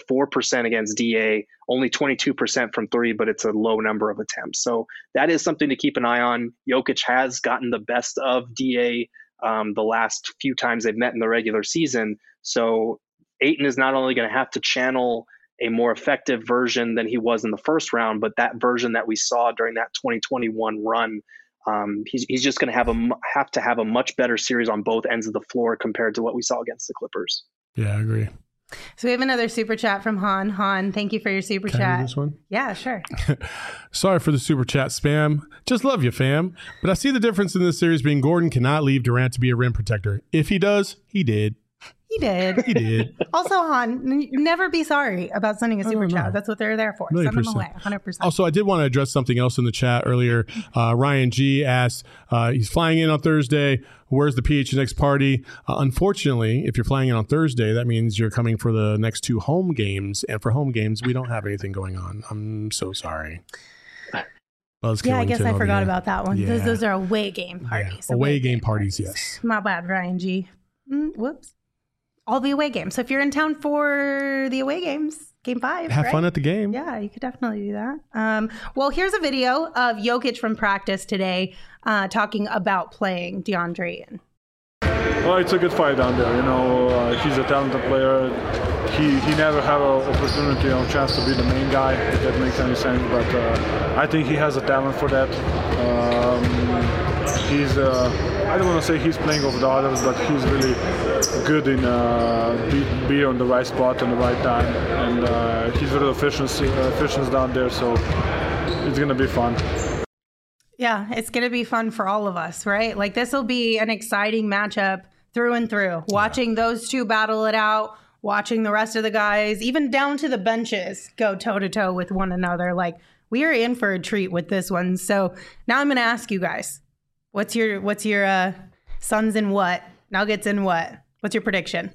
64% against DA, only 22% from three, but it's a low number of attempts. So that is something to keep an eye on. Jokic has gotten the best of DA the last few times they've met in the regular season. So Ayton is not only going to have to channel a more effective version than he was in the first round, but that version that we saw during that 2021 run, he's just going to have to have a much better series on both ends of the floor compared to what we saw against the Clippers. Yeah, I agree. So we have another super chat from Han. Han, thank you for your super Can chat. I do this one? Yeah, sure. Sorry for the super chat spam. Just love you, fam. But I see the difference in this series being Gordon cannot leave Durant to be a rim protector. If he does, he did. He did. He did. Also, Han, never be sorry about sending a super chat. That's what they're there for. Send them away, 100%. Also, I did want to address something else in the chat earlier. Ryan G asked, he's flying in on Thursday. Where's the PHNX party? Unfortunately, if you're flying in on Thursday, that means you're coming for the next 2 home games. And for home games, we don't have anything going on. I'm so sorry. Yeah, I guess I forgot about that one. Yeah. Those are away game parties. Yeah. Away game parties, yes. My bad, Ryan G. Whoops. All the away games. So if you're in town for the away games, game 5, have fun at the game. Yeah, you could definitely do that. Well, here's a video of Jokic from practice today talking about playing DeAndre Ayton. Well, it's a good fight down there. He's a talented player. He never had an opportunity or chance to be the main guy, if that makes any sense. But I think he has a talent for that. He's I don't want to say he's playing over the others, but he's really good in be on the right spot and the right time, and he's really efficient down there, so it's gonna be fun. Yeah, it's gonna be fun for all of us, right? Like, this will be an exciting matchup through and through. Watching those two battle it out, watching the rest of the guys, even down to the benches, go toe to toe with one another. Like, we are in for a treat with this one. So now I'm gonna ask you guys. What's your Suns in what? Nuggets in what? What's your prediction?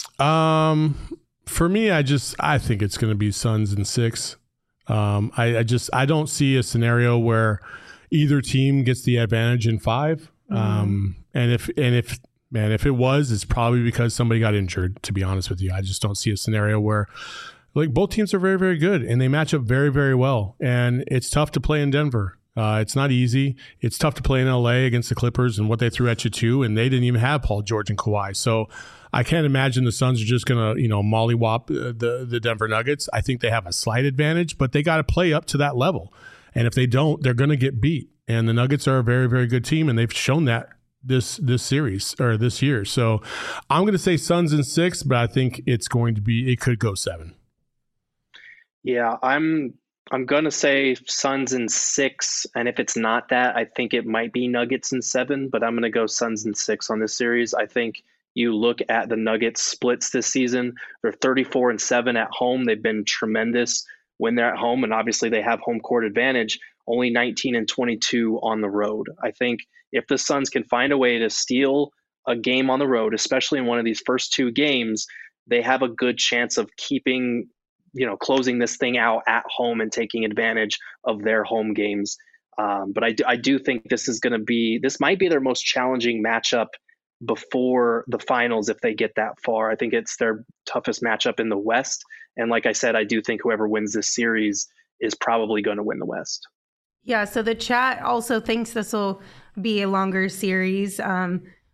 For me, I think it's going to be Suns in 6. I don't see a scenario where either team gets the advantage in 5. And if it was, it's probably because somebody got injured, to be honest with you. I just don't see a scenario where, like, both teams are very, very good and they match up very, very well. And it's tough to play in Denver. It's not easy. It's tough to play in LA against the Clippers and what they threw at you too. And they didn't even have Paul George and Kawhi. So I can't imagine the Suns are just going to, mollywop the Denver Nuggets. I think they have a slight advantage, but they got to play up to that level. And if they don't, they're going to get beat. And the Nuggets are a very, very good team. And they've shown that this series or this year. So I'm going to say Suns in 6, but I think it could go 7. Yeah, I'm going to say Suns in 6, and if it's not that, I think it might be Nuggets in 7, but I'm going to go Suns in 6 on this series. I think you look at the Nuggets splits this season, they're 34-7 at home. They've been tremendous when they're at home, and obviously they have home court advantage, only 19-22 on the road. I think if the Suns can find a way to steal a game on the road, especially in one of these first 2 games, they have a good chance of closing this thing out at home and taking advantage of their home games. But I do think this might be their most challenging matchup before the finals if they get that far. I think it's their toughest matchup in the West. And like I said, I do think whoever wins this series is probably going to win the West. with the chat also thinks this will be a longer series.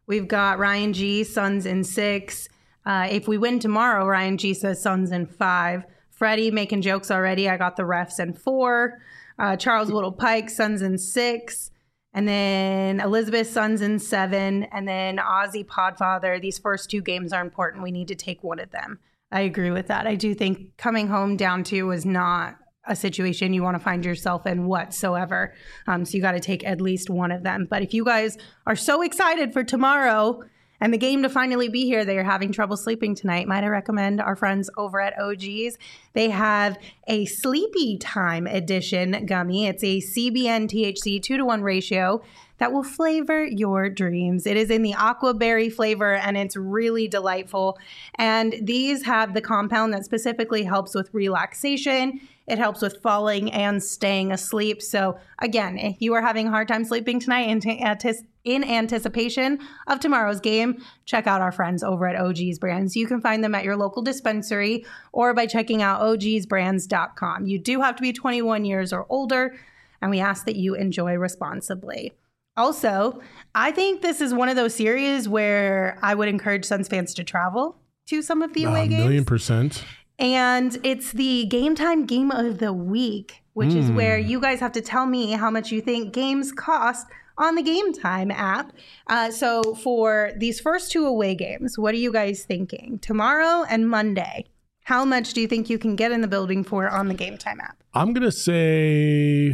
We've got Ryan G, Suns in 6. If we win tomorrow, Ryan G says Suns in 5. Freddie making jokes already. I got the refs in 4. Charles Whittle Pike, Suns in 6. And then Elizabeth, Suns in 7. And then Ozzy Podfather. These first 2 games are important. We need to take one of them. I agree with that. I do think coming home down 2 is not a situation you want to find yourself in whatsoever. So you got to take at least one of them. But if you guys are so excited for tomorrow and the game to finally be here, they are having trouble sleeping tonight, might I recommend our friends over at OG's. They have a Sleepy Time Edition gummy. It's a CBN THC 2-to-1 ratio that will flavor your dreams. It is in the aqua berry flavor, and it's really delightful. And these have the compound that specifically helps with relaxation. It helps with falling and staying asleep. So again, if you are having a hard time sleeping tonight in anticipation of tomorrow's game, check out our friends over at OG's Brands. You can find them at your local dispensary or by checking out ogsbrands.com. You do have to be 21 years or older, and we ask that you enjoy responsibly. Also, I think this is one of those series where I would encourage Suns fans to travel to some of the away games. 1,000,000%. And it's the Game Time Game of the Week, which is where you guys have to tell me how much you think games cost on the Game Time app. So for these first 2 away games, what are you guys thinking? Tomorrow and Monday, how much do you think you can get in the building for on the Game Time app? I'm going to say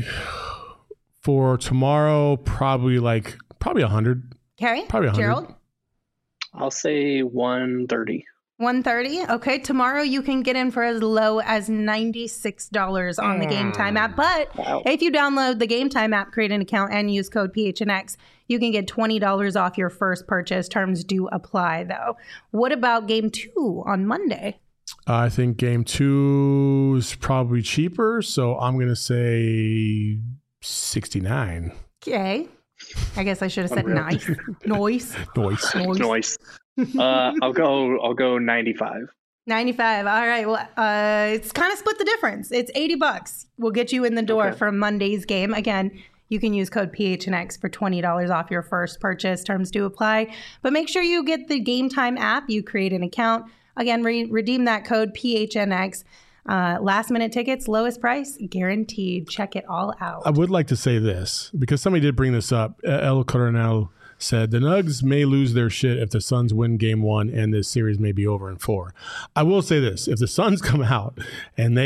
for tomorrow, probably 100. Okay. Probably 100. Gerald? I'll say 130. 130. Okay. Tomorrow you can get in for as low as $96 on the Game Time app. But if you download the Game Time app, create an account, and use code PHNX, you can get $20 off your first purchase. Terms do apply, though. What about Game 2 on Monday? I think Game 2 is probably cheaper, so I'm going to say 69. Okay. I guess I should have said nice. Noise. I'll go 95. 95. All right. Well, it's kind of split the difference. It's $80. We'll get you in the door for Monday's game. Again, you can use code PHNX for $20 off your first purchase. Terms do apply. But make sure you get the Game Time app. You create an account. Again, redeem that code PHNX. Last minute tickets, lowest price, guaranteed. Check it all out. I would like to say this, because somebody did bring this up. El Coronel said, the Nugs may lose their shit if the Suns win Game 1 and this series may be over in 4. I will say this. If the Suns come out and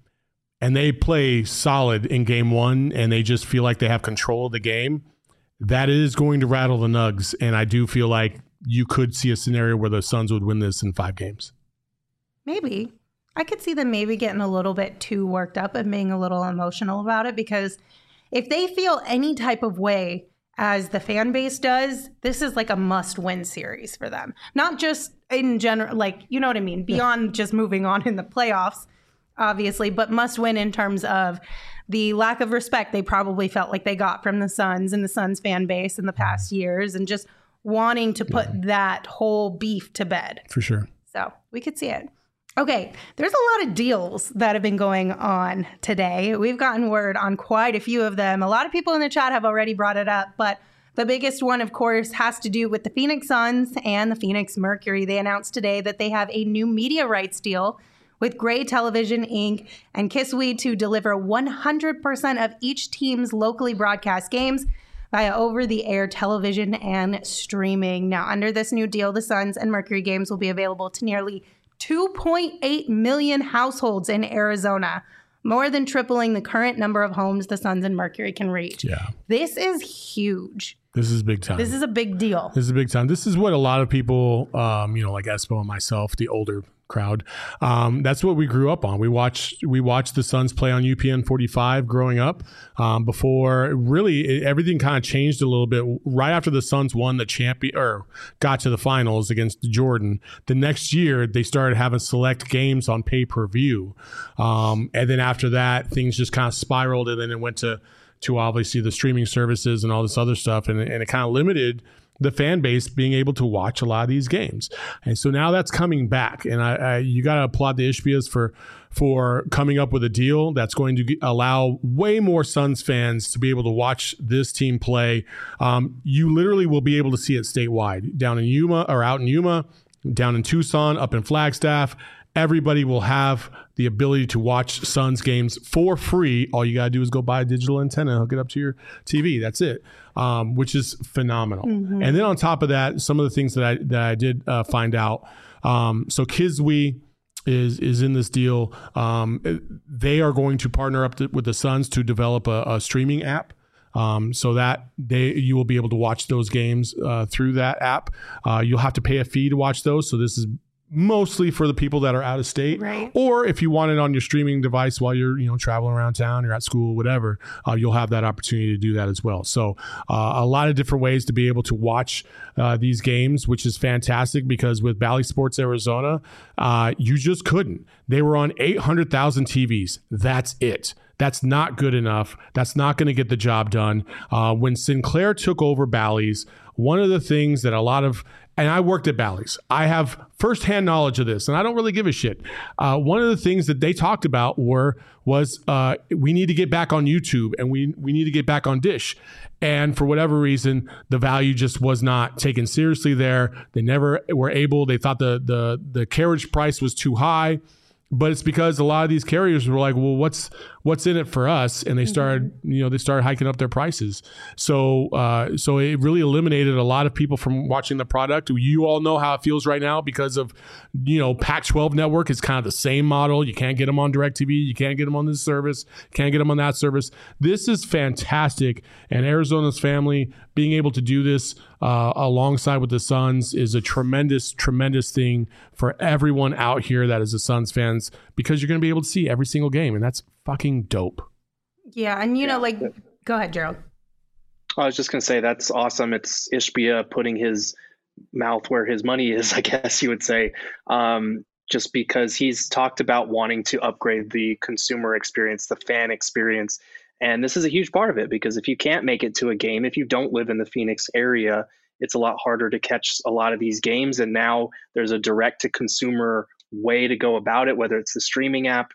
they play solid in Game 1 and they just feel like they have control of the game, that is going to rattle the Nugs. And I do feel like you could see a scenario where the Suns would win this in 5 games. Maybe. I could see them maybe getting a little bit too worked up and being a little emotional about it, because if they feel any type of way as the fan base does, this is like a must-win series for them. Not just in general, like, you know what I mean? Beyond just moving on in the playoffs, obviously, but must-win in terms of the lack of respect they probably felt like they got from the Suns and the Suns fan base in the past years, and just wanting to put that whole beef to bed. For sure. So we could see it. Okay, there's a lot of deals that have been going on today. We've gotten word on quite a few of them. A lot of people in the chat have already brought it up, but the biggest one, of course, has to do with the Phoenix Suns and the Phoenix Mercury. They announced today that they have a new media rights deal with Gray Television, Inc. and Kissweed to deliver 100% of each team's locally broadcast games via over-the-air television and streaming. Now, under this new deal, the Suns and Mercury games will be available to nearly 2.8 million households in Arizona, more than tripling the current number of homes the Suns and Mercury can reach. Yeah. This is huge. This is big time. This is a big deal. This is a big time. This is what a lot of people, like Espo and myself, the older crowd, that's what we grew up on. We watched the Suns play on UPN 45 growing up. Before really everything kind of changed a little bit right after the Suns won the champion or got to the finals against Jordan. The next year they started having select games on pay-per-view, and then after that things just kind of spiraled, and then it went to obviously the streaming services and all this other stuff, and it kind of limited the fan base being able to watch a lot of these games. And so now that's coming back. And you got to applaud the Ishbias for coming up with a deal that's going to allow way more Suns fans to be able to watch this team play. You literally will be able to see it statewide, down in Yuma or out in Yuma, down in Tucson, up in Flagstaff. Everybody will have the ability to watch Suns games for free. All you got to do is go buy a digital antenna, hook it up to your TV. That's it, which is phenomenal. Mm-hmm. And then on top of that, some of the things that I did find out. So Kiswe is in this deal. They are going to partner up with the Suns to develop a streaming app. So that you will be able to watch those games through that app. You'll have to pay a fee to watch those. So this is mostly for the people that are out of state, right? Or if you want it on your streaming device while you're traveling around town, you're at school, whatever, you'll have that opportunity to do that as well. So a lot of different ways to be able to watch these games, which is fantastic, because with Bally Sports Arizona, you just couldn't. They were on 800,000 TVs. That's it. That's not good enough. That's not going to get the job done. When Sinclair took over Bally's, one of the things that and I worked at Bally's, I have firsthand knowledge of this, and I don't really give a shit. One of the things that they talked about was we need to get back on YouTube, and we need to get back on Dish. And for whatever reason, the value just was not taken seriously there. They never were able. They thought the carriage price was too high. But it's because a lot of these carriers were like, well, what's in it for us? And they started, hiking up their prices. So it really eliminated a lot of people from watching the product. You all know how it feels right now because of, Pac-12 network is kind of the same model. You can't get them on DirecTV. You can't get them on this service. Can't get them on that service. This is fantastic. And Arizona's family being able to do this alongside with the Suns is a tremendous, tremendous thing for everyone out here that is a Suns fans, because you're going to be able to see every single game, and that's fucking dope. Yeah, and go ahead, Gerald. I was just going to say that's awesome. It's Ishbia putting his mouth where his money is, I guess you would say, just because he's talked about wanting to upgrade the consumer experience, the fan experience. And this is a huge part of it, because if you can't make it to a game, if you don't live in the Phoenix area, it's a lot harder to catch a lot of these games. And now there's a direct to consumer way to go about it, whether it's the streaming app.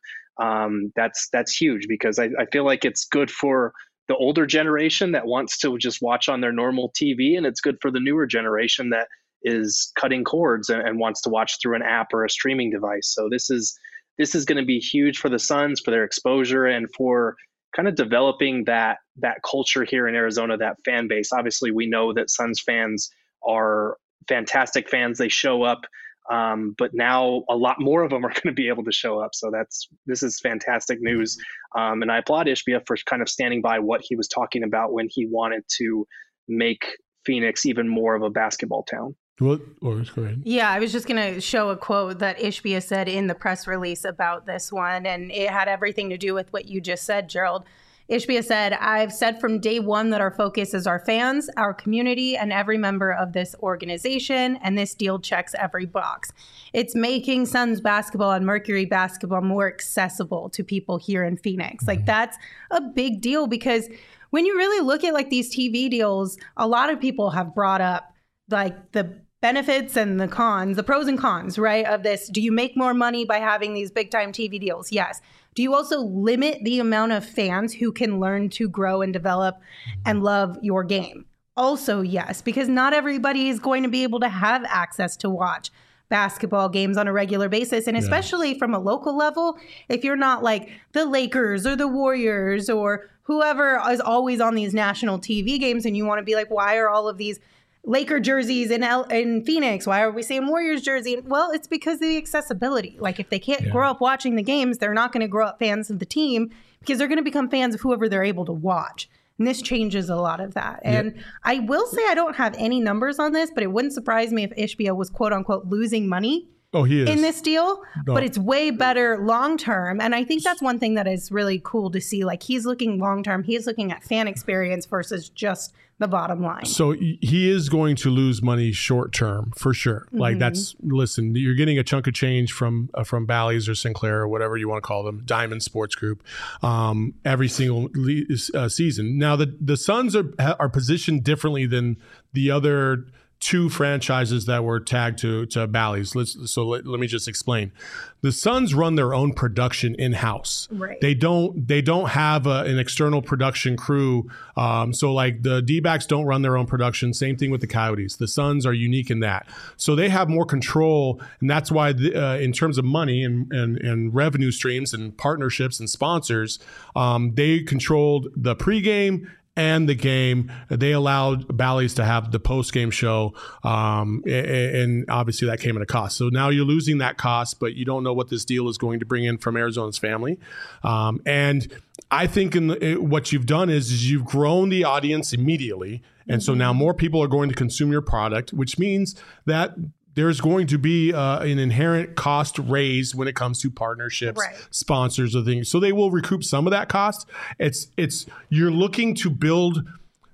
That's huge, because I feel like it's good for the older generation that wants to just watch on their normal TV. And it's good for the newer generation that is cutting cords and wants to watch through an app or a streaming device. So this is going to be huge for the Suns, for their exposure, and for kind of developing that culture here in Arizona, that fan base. Obviously, we know that Suns fans are fantastic fans. They show up, but now a lot more of them are going to be able to show up. So this is fantastic news. And I applaud Ishbia for kind of standing by what he was talking about when he wanted to make Phoenix even more of a basketball town. What? Go ahead. Yeah, I was just going to show a quote that Ishbia said in the press release about this one, and it had everything to do with what you just said, Gerald. Ishbia said, "I've said from day one that our focus is our fans, our community, and every member of this organization, and this deal checks every box. It's making Suns basketball and Mercury basketball more accessible to people here in Phoenix." Like, that's a big deal, because when you really look at these TV deals, a lot of people have brought up the benefits and the cons, the pros and cons, right, of this. Do you make more money by having these big time TV deals? Yes. Do you also limit the amount of fans who can learn to grow and develop and love your game? Also, yes, because not everybody is going to be able to have access to watch basketball games on a regular basis. And especially from a local level, if you're not like the Lakers or the Warriors or whoever is always on these national TV games, and you want to be like, why are all of these Laker jerseys in Phoenix? Why are we seeing Warriors jersey? Well, it's because of the accessibility. Like, if they can't grow up watching the games, they're not going to grow up fans of the team, because they're going to become fans of whoever they're able to watch. And this changes a lot of that. And I will say I don't have any numbers on this, but it wouldn't surprise me if Ishbia was quote unquote losing money he is in this deal, but it's way better long term. And I think that's one thing that is really cool to see. Like, he's looking long term. He's looking at fan experience versus just the bottom line. So he is going to lose money short term for sure. Like listen, you're getting a chunk of change from Bally's or Sinclair or whatever you want to call them, Diamond Sports Group, every single season. Now the Suns are positioned differently than the other two franchises that were tagged to Bally's. Let me just explain. The Suns run their own production in-house. Right. They don't have an external production crew. So like the D-backs don't run their own production. Same thing with the Coyotes. The Suns are unique in that. So they have more control, and that's why in terms of money and revenue streams and partnerships and sponsors, they controlled the pregame and the game. They allowed Bally's to have the post-game show, and obviously that came at a cost. So now you're losing that cost, but you don't know what this deal is going to bring in from Arizona's family. And I think what you've done is you've grown the audience immediately, and so now more people are going to consume your product, which means that there's going to be an inherent cost raise when it comes to partnerships, sponsors, or things. So they will recoup some of that cost. You're looking to build.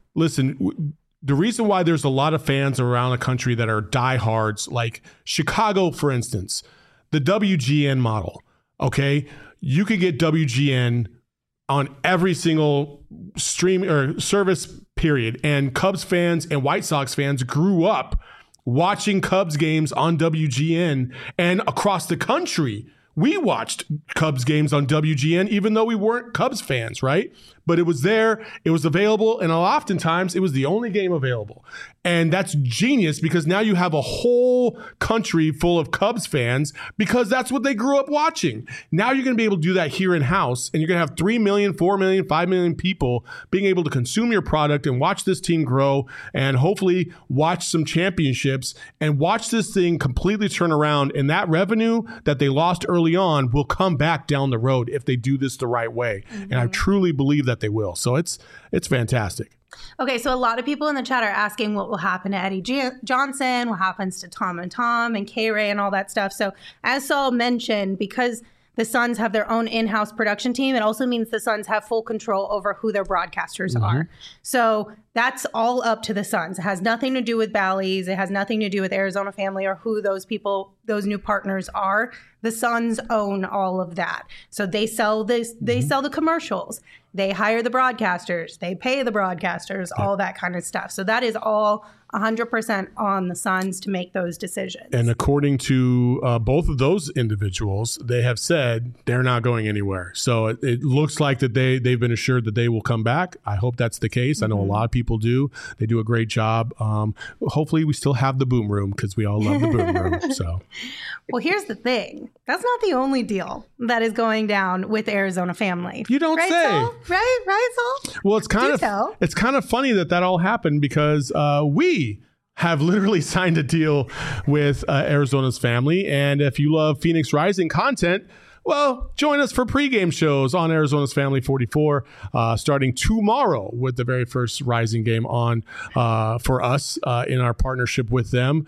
Listen, the reason why there's a lot of fans around the country that are diehards, like Chicago, for instance, the WGN model. Okay, you could get WGN on every single stream or service period, and Cubs fans and White Sox fans grew up watching Cubs games on WGN, and across the country, we watched Cubs games on WGN, even though we weren't Cubs fans, right? But it was there, it was available, and oftentimes it was the only game available. And that's genius, because now you have a whole country full of Cubs fans because that's what they grew up watching. Now you're going to be able to do that here in-house, and you're going to have 3 million, 4 million, 5 million people being able to consume your product and watch this team grow, and hopefully watch some championships and watch this thing completely turn around. And that revenue that they lost early on will come back down the road if they do this the right way. And I truly believe that they will. So it's fantastic. Okay, so a lot of people in the chat are asking what will happen to Eddie Johnson, what happens to Tom and Tom and K-Ray and all that stuff. So as Saul mentioned, because the Suns have their own in-house production team, it also means the Suns have full control over who their broadcasters are. So that's all up to the Suns. It has nothing to do with Bally's. It has nothing to do with Arizona Family or who those people, those new partners are. The Suns own all of that. So they sell this, they sell the commercials. They hire the broadcasters. They pay the broadcasters, all that kind of stuff. So that is all 100% on the Suns to make those decisions. And according to both of those individuals, they have said they're not going anywhere. So it looks like that they've been assured that they will come back. I hope that's the case. I know a lot of people do. They do a great job. Hopefully we still have the boom room, because we all love the boom room. So, well, here's the thing. That's not the only deal that is going down with Arizona Family. You don't say. Saul? Right, Saul? Well, it's kind of funny that all happened, because we have literally signed a deal with Arizona's Family. And if you love Phoenix Rising content, well, join us for pregame shows on Arizona's Family 44, starting tomorrow with the very first Rising game on for us in our partnership with them.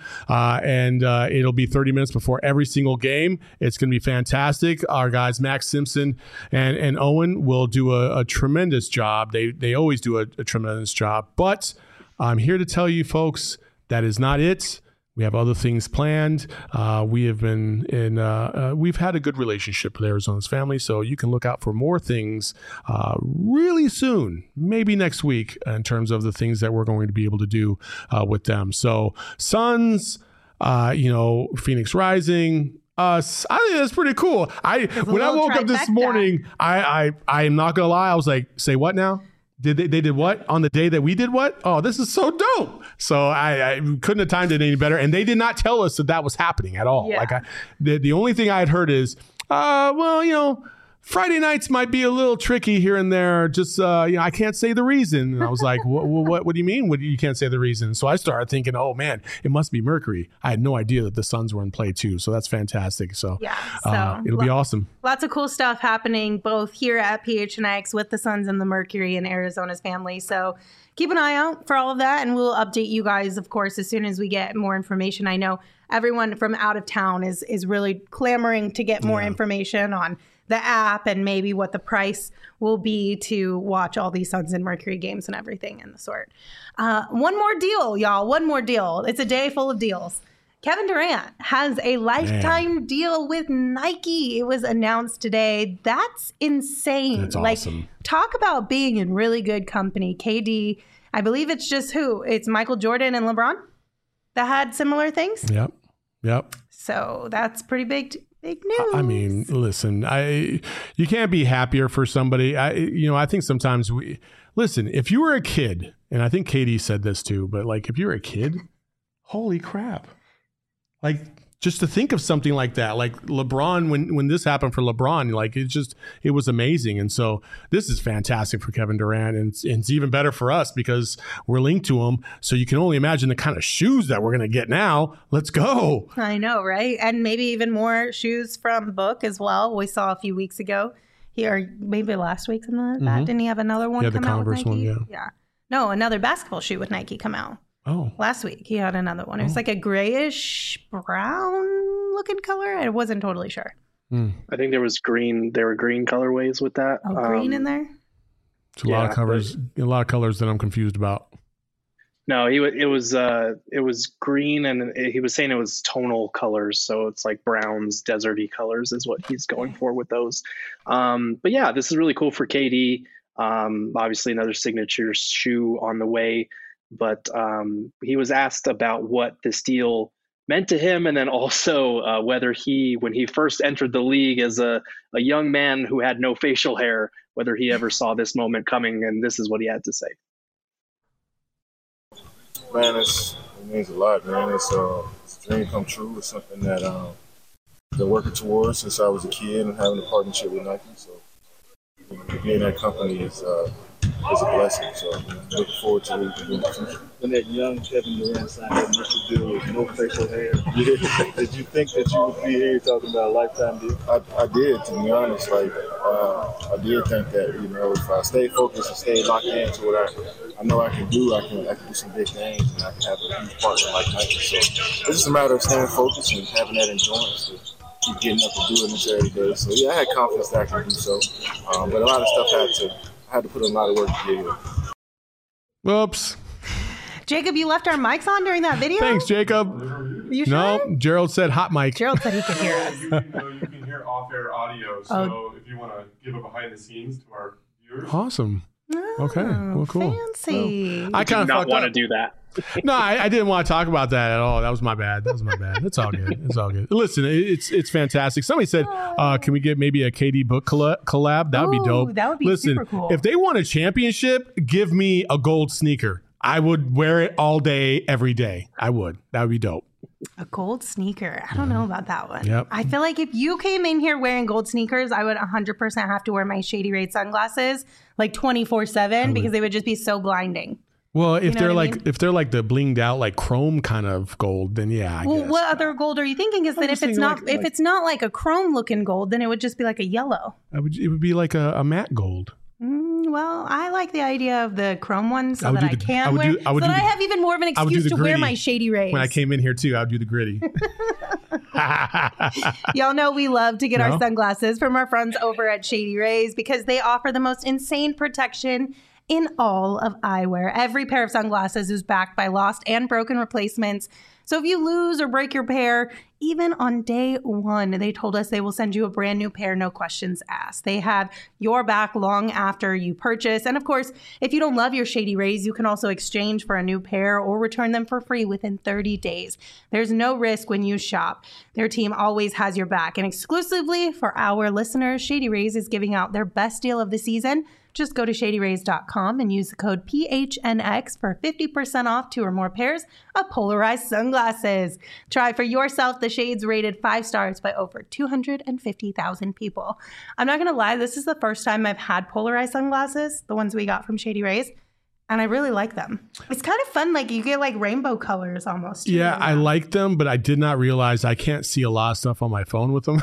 And it'll be 30 minutes before every single game. It's going to be fantastic. Our guys, Max Simpson and Owen, will do a tremendous job. They always do a tremendous job. But I'm here to tell you, folks, that is not it. We have other things planned. We have been we've had a good relationship with Arizona's Family, so you can look out for more things really soon, maybe next week, in terms of the things that we're going to be able to do with them. So Suns, Phoenix Rising, us. I think that's pretty cool. When I woke up this morning, I am not gonna lie, I was like, say what now? They did what on the day that we did what? Oh, this is so dope. So I couldn't have timed it any better. And they did not tell us that was happening at all. Yeah. Like the only thing I had heard is, Friday nights might be a little tricky here and there. Just, I can't say the reason. And I was like, what do you mean? You can't say the reason? So I started thinking, oh man, it must be Mercury. I had no idea that the Suns were in play too. So that's fantastic. So, it'll be awesome. Lots of cool stuff happening both here at PHNX with the Suns and the Mercury and Arizona's family. So keep an eye out for all of that. And we'll update you guys, of course, as soon as we get more information. I know everyone from out of town is really clamoring to get more information on the app and maybe what the price will be to watch all these Suns and Mercury games and everything in the sort. One more deal, y'all. One more deal. It's a day full of deals. Kevin Durant has a lifetime deal with Nike. It was announced today. That's insane. That's awesome. Talk about being in really good company. KD, I believe it's just who? It's Michael Jordan and LeBron that had similar things? Yep. So that's pretty big news. I mean, listen, you can't be happier for somebody. I think sometimes listen, if you were a kid, and I think KD said this too, but like if you're a kid, holy crap. Like just to think of something like that, like LeBron, when this happened for LeBron, like it was amazing. And so this is fantastic for Kevin Durant, and it's even better for us because we're linked to him. So you can only imagine the kind of shoes that we're going to get now. Let's go. I know, right? And maybe even more shoes from Book as well. We saw a few weeks ago here, maybe last week, something like that. Didn't he have another one come out with Nike? Yeah. No, another basketball shoe with Nike come out. Oh. Last week he had another one. It was like a grayish brown looking color. I wasn't totally sure. I think there was green. There were green colorways with that. Oh, green in there? It's a lot of colors that I'm confused about. No, it was green, and he was saying it was tonal colors, so it's like browns, deserty colors is what he's going for with those. But yeah, this is really cool for KD. Obviously another signature shoe on the way. But he was asked about what this deal meant to him, and then also whether when he first entered the league as a young man who had no facial hair, whether he ever saw this moment coming, and this is what he had to say. Man, it means a lot, man. It's a dream come true. It's something that I've been working towards since I was a kid and having a partnership with Nike. So being in that company is a blessing. So looking forward to what we can do in the future. When that young Kevin Durant signed that initial deal with no facial hair, did you think that you would be here talking about a lifetime deal? I did, to be honest. I did think that, if I stay focused and stay locked into what I know I can do, I can do some big things, and I can have a huge partner like Nike. So it's just a matter of staying focused and having that endurance to keep getting up and doing this every day. So yeah, I had confidence that I could do so. But a lot of stuff I had to put in a lot of work to get here. Whoops. Jacob, you left our mics on during that video? Thanks, Jacob. You sure? No, Gerald said hot mic. Gerald said he could hear us. You can hear off-air audio, so if you want to give a behind the scenes to our viewers. Awesome. Okay, well, cool. Fancy. Well, I kind of not want to do that. No, I didn't want to talk about that at all. That was my bad. It's all good. Listen, it's fantastic. Somebody said, can we get maybe a KD book collab? That would be dope. That would be super cool. If they won a championship, give me a gold sneaker. I would wear it all day, every day. I would. That would be dope. A gold sneaker. I don't know about that one. Yep. I feel like if you came in here wearing gold sneakers, I would 100% have to wear my Shady Rays sunglasses like 24/7 because they would just be so blinding. Well, if they're like the blinged out like chrome kind of gold, then yeah. I guess. What other gold are you thinking? Is that if it's not like a chrome looking gold, then it would just be like a yellow. It would be like a matte gold. Well, I like the idea of the chrome ones so that I have even more of an excuse to wear my Shady Rays. When I came in here too, I would do the gritty. Y'all know we love to get our sunglasses from our friends over at Shady Rays because they offer the most insane protection in all of eyewear. Every pair of sunglasses is backed by lost and broken replacements. So if you lose or break your pair, even on day one, they told us they will send you a brand new pair, no questions asked. They have your back long after you purchase. And of course, if you don't love your Shady Rays, you can also exchange for a new pair or return them for free within 30 days. There's no risk when you shop. Their team always has your back. And exclusively for our listeners, Shady Rays is giving out their best deal of the season Just go to shadyrays.com and use the code PHNX for 50% off 2 or more pairs of polarized sunglasses. Try for yourself the shades rated 5 stars by over 250,000 people. I'm not going to lie, this is the first time I've had polarized sunglasses, the ones we got from Shady Rays. And I really like them. It's kind of fun. Like you get like rainbow colors almost. Yeah, I like them, but I did not realize I can't see a lot of stuff on my phone with them.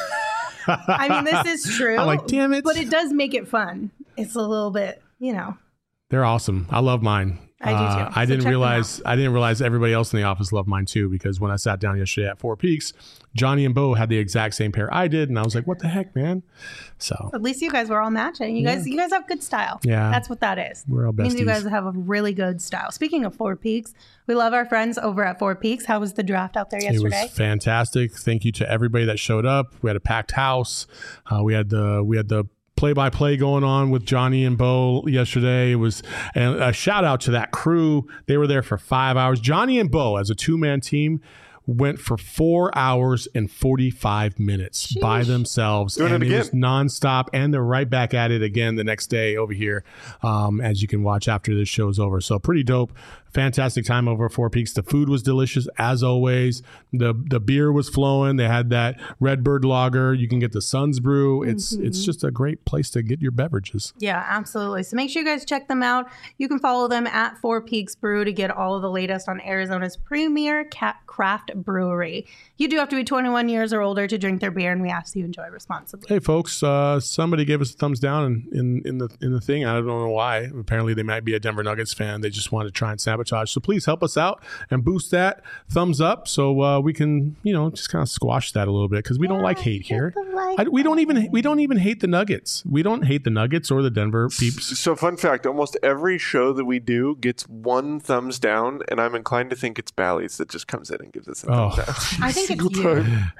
I mean, this is true. I'm like, damn it. But it does make it fun. It's a little bit, They're awesome. I love mine. I do too. I didn't realize everybody else in the office loved mine too, because when I sat down yesterday at Four Peaks, Johnny and Bo had the exact same pair I did, and I was like, "What the heck, man?" So at least you guys were all matching. You guys have good style. Yeah, that's what that is. We're all besties. It means you guys have a really good style. Speaking of Four Peaks, we love our friends over at Four Peaks. How was the draft out there yesterday? It was fantastic. Thank you to everybody that showed up. We had a packed house. We had the play-by-play going on with Johnny and Bo yesterday. It was, and a shout out to that crew. They were there for 5 hours. Johnny and Bo, as a 2-man team, went for 4 hours and 45 minutes by themselves. Doing it again. It was nonstop, and they're right back at it again the next day over here, as you can watch after this show's over. So pretty dope. Fantastic time over at Four Peaks. The food was delicious as always. The beer was flowing. They had that Redbird Lager. You can get the Suns Brew. It's just a great place to get your beverages. Yeah, absolutely. So make sure you guys check them out. You can follow them at Four Peaks Brew to get all of the latest on Arizona's premier craft brewery. You do have to be 21 years or older to drink their beer, and we ask you enjoy responsibly. Hey, folks, somebody gave us a thumbs down in the thing. I don't know why. Apparently, they might be a Denver Nuggets fan. They just wanted to try and sabotage. So please help us out and boost that thumbs up so we can, just kind of squash that a little bit, because we don't like hate here. We don't even hate the Nuggets. We don't hate the Nuggets or the Denver peeps. So fun fact, almost every show that we do gets 1 thumbs down, and I'm inclined to think it's Bally's that just comes in and gives us a thumbs down. I think it's you.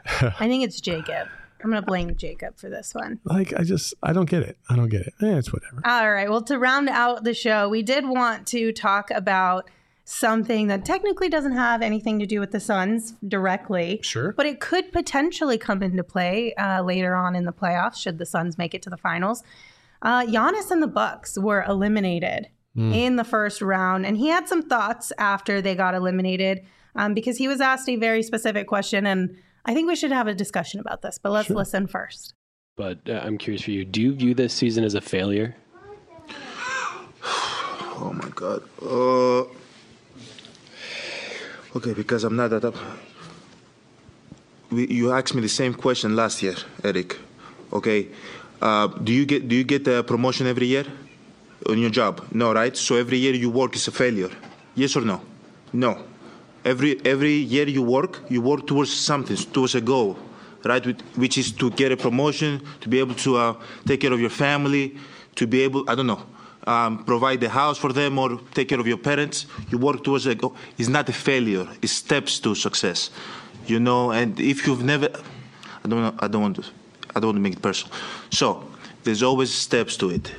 I think it's Jacob. I'm going to blame Jacob for this one. I don't get it. It's whatever. All right. Well, to round out the show, we did want to talk about something that technically doesn't have anything to do with the Suns directly. Sure. But it could potentially come into play later on in the playoffs should the Suns make it to the finals. Giannis and the Bucks were eliminated in the first round, and he had some thoughts after they got eliminated because he was asked a very specific question, and I think we should have a discussion about this, but let's listen first. But I'm curious for you. Do you view this season as a failure? Oh, my God. Okay, because I'm not that up. You asked me the same question last year, Eric. Okay, do you get the promotion every year on your job? No, right? So every year you work is a failure. Yes or no? No. Every year you work towards something, towards a goal, right? Which is to get a promotion, to be able to take care of your family, to be able, provide the house for them or take care of your parents. You work towards a goal. It's not a failure. It's steps to success, And if you've never, I don't want to make it personal. So there's always steps to it,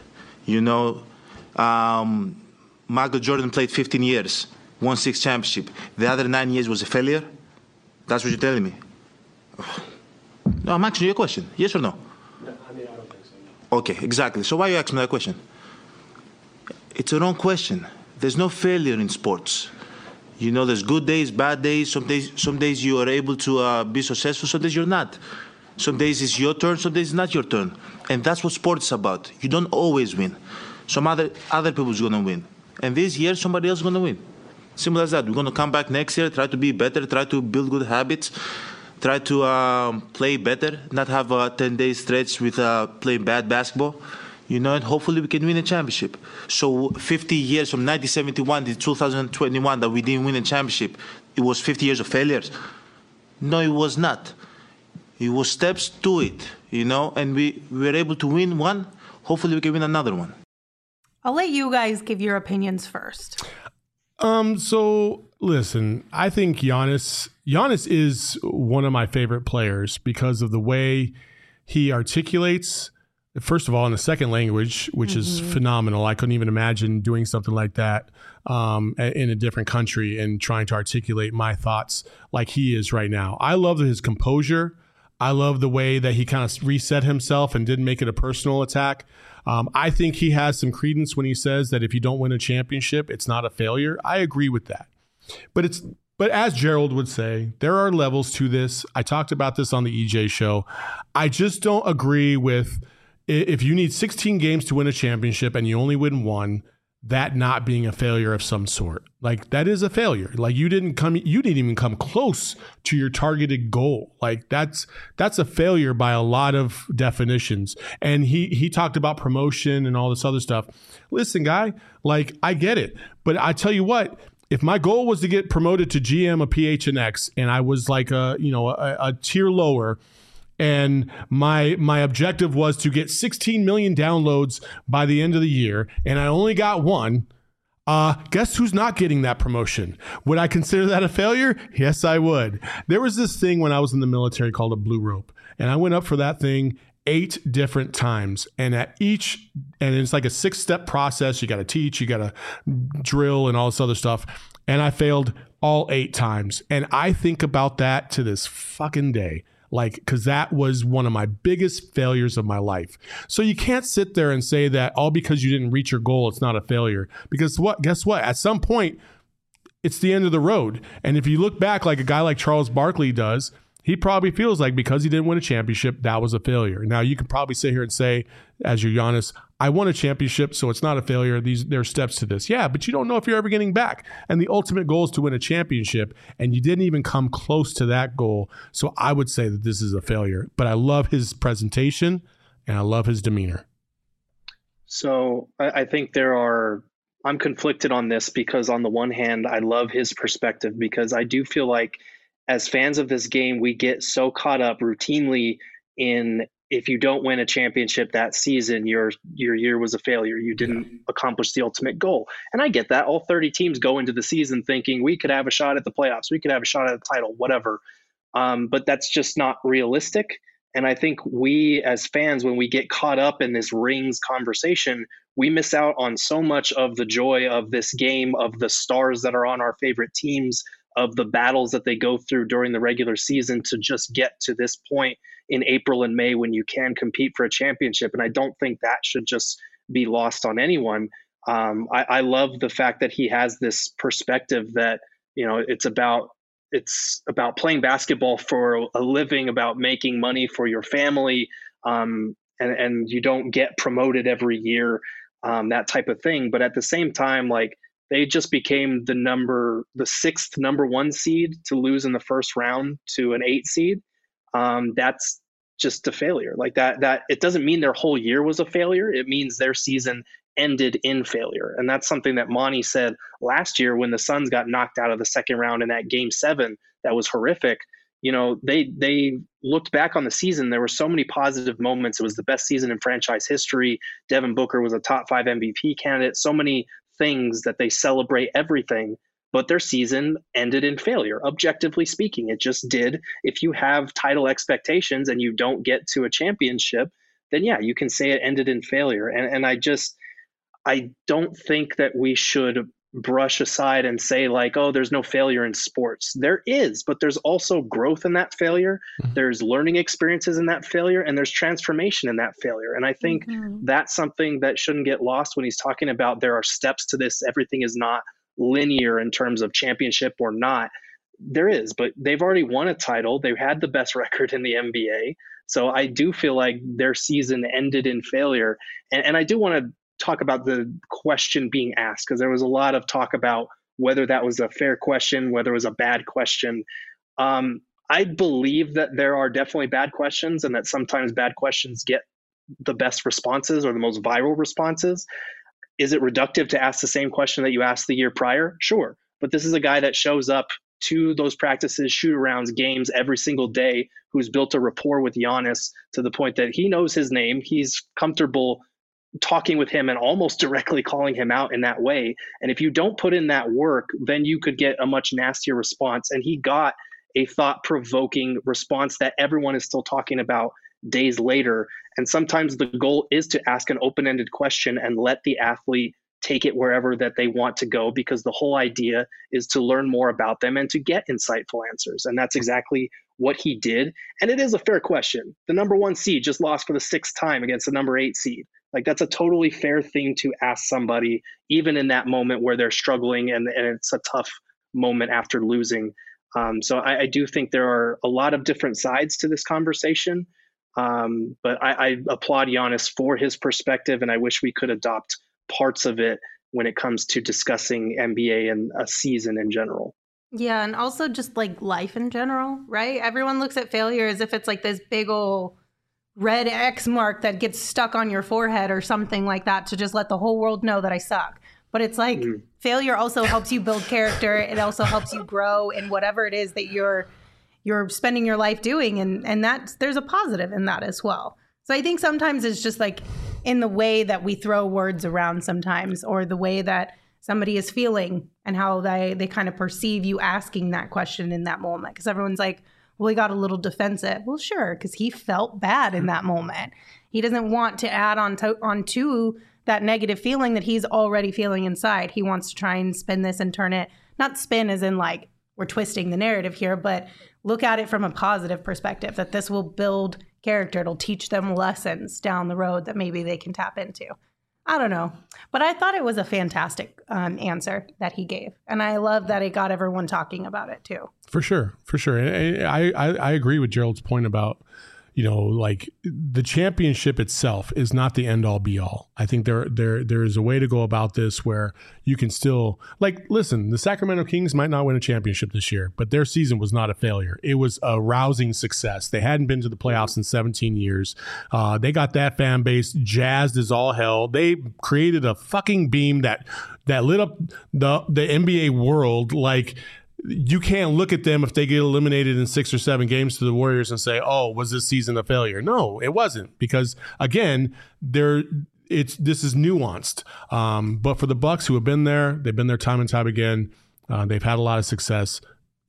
Michael Jordan played 15 years, won 6 championships. The other 9 years was a failure. That's what you're telling me. No, I'm asking you a question. Yes or no? No, I don't think so. No. Okay, exactly. So why are you asking me that question? It's a wrong question. There's no failure in sports. There's good days, bad days. Some days you are able to be successful. Some days you're not. Some days it's your turn. Some days it's not your turn. And that's what sports is about. You don't always win. Some other people's gonna win. And this year somebody else is gonna win. Simple as that. We're gonna come back next year, try to be better, try to build good habits, try to play better, not have a 10-day stretch with playing bad basketball. And hopefully we can win a championship. So 50 years from 1971 to 2021 that we didn't win a championship, it was 50 years of failures? No, it was not. It was steps to it, and we were able to win one. Hopefully we can win another one. I'll let you guys give your opinions first. So listen, I think Giannis is one of my favorite players because of the way he articulates. First of all, in a second language, which is phenomenal. I couldn't even imagine doing something like that in a different country and trying to articulate my thoughts like he is right now. I love his composure. I love the way that he kind of reset himself and didn't make it a personal attack. I think he has some credence when he says that if you don't win a championship, it's not a failure. I agree with that. But as Gerald would say, there are levels to this. I talked about this on the EJ show. I just don't agree with if you need 16 games to win a championship and you only win one, that not being a failure of some sort. Like, that is a failure. Like, you didn't even come close to your targeted goal. Like, that's a failure by a lot of definitions. And he talked about promotion and all this other stuff. Listen, guy, like, I get it. But I tell you what, if my goal was to get promoted to GM of PHNX and I was like a tier lower, and my objective was to get 16 million downloads by the end of the year, and I only got one, guess who's not getting that promotion? Would I consider that a failure? Yes, I would. There was this thing when I was in the military called a blue rope, and I went up for that thing 8 different times, and it's like a 6-step process. You got to teach, you got to drill, and all this other stuff. And I failed all 8 times, and I think about that to this fucking day. Like, because that was one of my biggest failures of my life. So you can't sit there and say that all because you didn't reach your goal, it's not a failure. Because guess what? At some point, it's the end of the road. And if you look back like a guy like Charles Barkley does, he probably feels like because he didn't win a championship, that was a failure. Now, you can probably sit here and say, as your Giannis, I won a championship, so it's not a failure. There are steps to this. Yeah, but you don't know if you're ever getting back. And the ultimate goal is to win a championship, and you didn't even come close to that goal. So I would say that this is a failure. But I love his presentation, and I love his demeanor. So I think I'm conflicted on this because on the one hand, I love his perspective because I do feel like as fans of this game, we get so caught up routinely in if you don't win a championship that season, your year was a failure. You didn't accomplish the ultimate goal. And I get that. All 30 teams go into the season thinking we could have a shot at the playoffs. We could have a shot at the title, whatever. But that's just not realistic. And I think we as fans, when we get caught up in this rings conversation, we miss out on so much of the joy of this game, of the stars that are on our favorite teams, of the battles that they go through during the regular season to just get to this point in April and May when you can compete for a championship. And I don't think that should just be lost on anyone. I love the fact that he has this perspective that, it's about playing basketball for a living, about making money for your family. And you don't get promoted every year, that type of thing. But at the same time, like, they just became the 6th number 1 seed to lose in the first round to an 8 seed. That's just a failure. Like that it doesn't mean their whole year was a failure. It means their season ended in failure. And that's something that Monty said last year when the Suns got knocked out of the second round in that game 7. That was horrific. They looked back on the season. There were so many positive moments. It was the best season in franchise history. Devin Booker was a top 5 MVP candidate. So many things that they celebrate everything, but their season ended in failure. Objectively speaking, it just did. If you have title expectations and you don't get to a championship, then yeah, you can say it ended in failure. And I don't think that we should brush aside and say like, oh, there's no failure in sports. There is, but there's also growth in that failure. Mm-hmm. There's learning experiences in that failure, and there's transformation in that failure. And I think that's something that shouldn't get lost when he's talking about there are steps to this. Everything is not linear in terms of championship or not. There is, but they've already won a title. They've had the best record in the NBA. So I do feel like their season ended in failure. And I do want to talk about the question being asked, because there was a lot of talk about whether that was a fair question, whether it was a bad question. I believe that there are definitely bad questions, and that sometimes bad questions get the best responses or the most viral responses. Is it reductive to ask the same question that you asked the year prior? Sure. But this is a guy that shows up to those practices, shoot-arounds, games every single day, who's built a rapport with Giannis to the point that he knows his name. He's comfortable talking with him and almost directly calling him out in that way. And if you don't put in that work, then you could get a much nastier response. And he got a thought-provoking response that everyone is still talking about days later. And sometimes the goal is to ask an open-ended question and let the athlete take it wherever that they want to go, because the whole idea is to learn more about them and to get insightful answers. And that's exactly what he did. And it is a fair question. The number 1 seed just lost for the 6th time against the number 8 seed. Like, that's a totally fair thing to ask somebody, even in that moment where they're struggling and it's a tough moment after losing. So I do think there are a lot of different sides to this conversation. But I applaud Giannis for his perspective, and I wish we could adopt parts of it when it comes to discussing NBA and a season in general. Yeah, and also just like life in general, right? Everyone looks at failure as if it's like this big old red X mark that gets stuck on your forehead or something like that to just let the whole world know that I suck. But it's like failure also helps you build character. It also helps you grow in whatever it is that you're spending your life doing. And there's a positive in that as well. So I think sometimes it's just like in the way that we throw words around sometimes, or the way that somebody is feeling and how they kind of perceive you asking that question in that moment. Because everyone's like, well, he got a little defensive. Well, sure, because he felt bad in that moment. He doesn't want to add onto that negative feeling that he's already feeling inside. He wants to try and spin this and turn it, not spin as in like we're twisting the narrative here, but look at it from a positive perspective, that this will build character. It'll teach them lessons down the road that maybe they can tap into. I don't know. But I thought it was a fantastic answer that he gave. And I love that it got everyone talking about it too. For sure. And I agree with Gerald's point about, like the championship itself is not the end all be all. I think there is a way to go about this where you can still, like, listen, the Sacramento Kings might not win a championship this year, but their season was not a failure. It was a rousing success. They hadn't been to the playoffs in 17 years. They got that fan base jazzed as all hell. They created a fucking beam that lit up the NBA world. Like, you can't look at them if they get eliminated in 6 or 7 games to the Warriors and say, oh, was this season a failure? No, it wasn't, because again, this is nuanced. But for the Bucks, who have been there, they've been there time and time again. They've had a lot of success.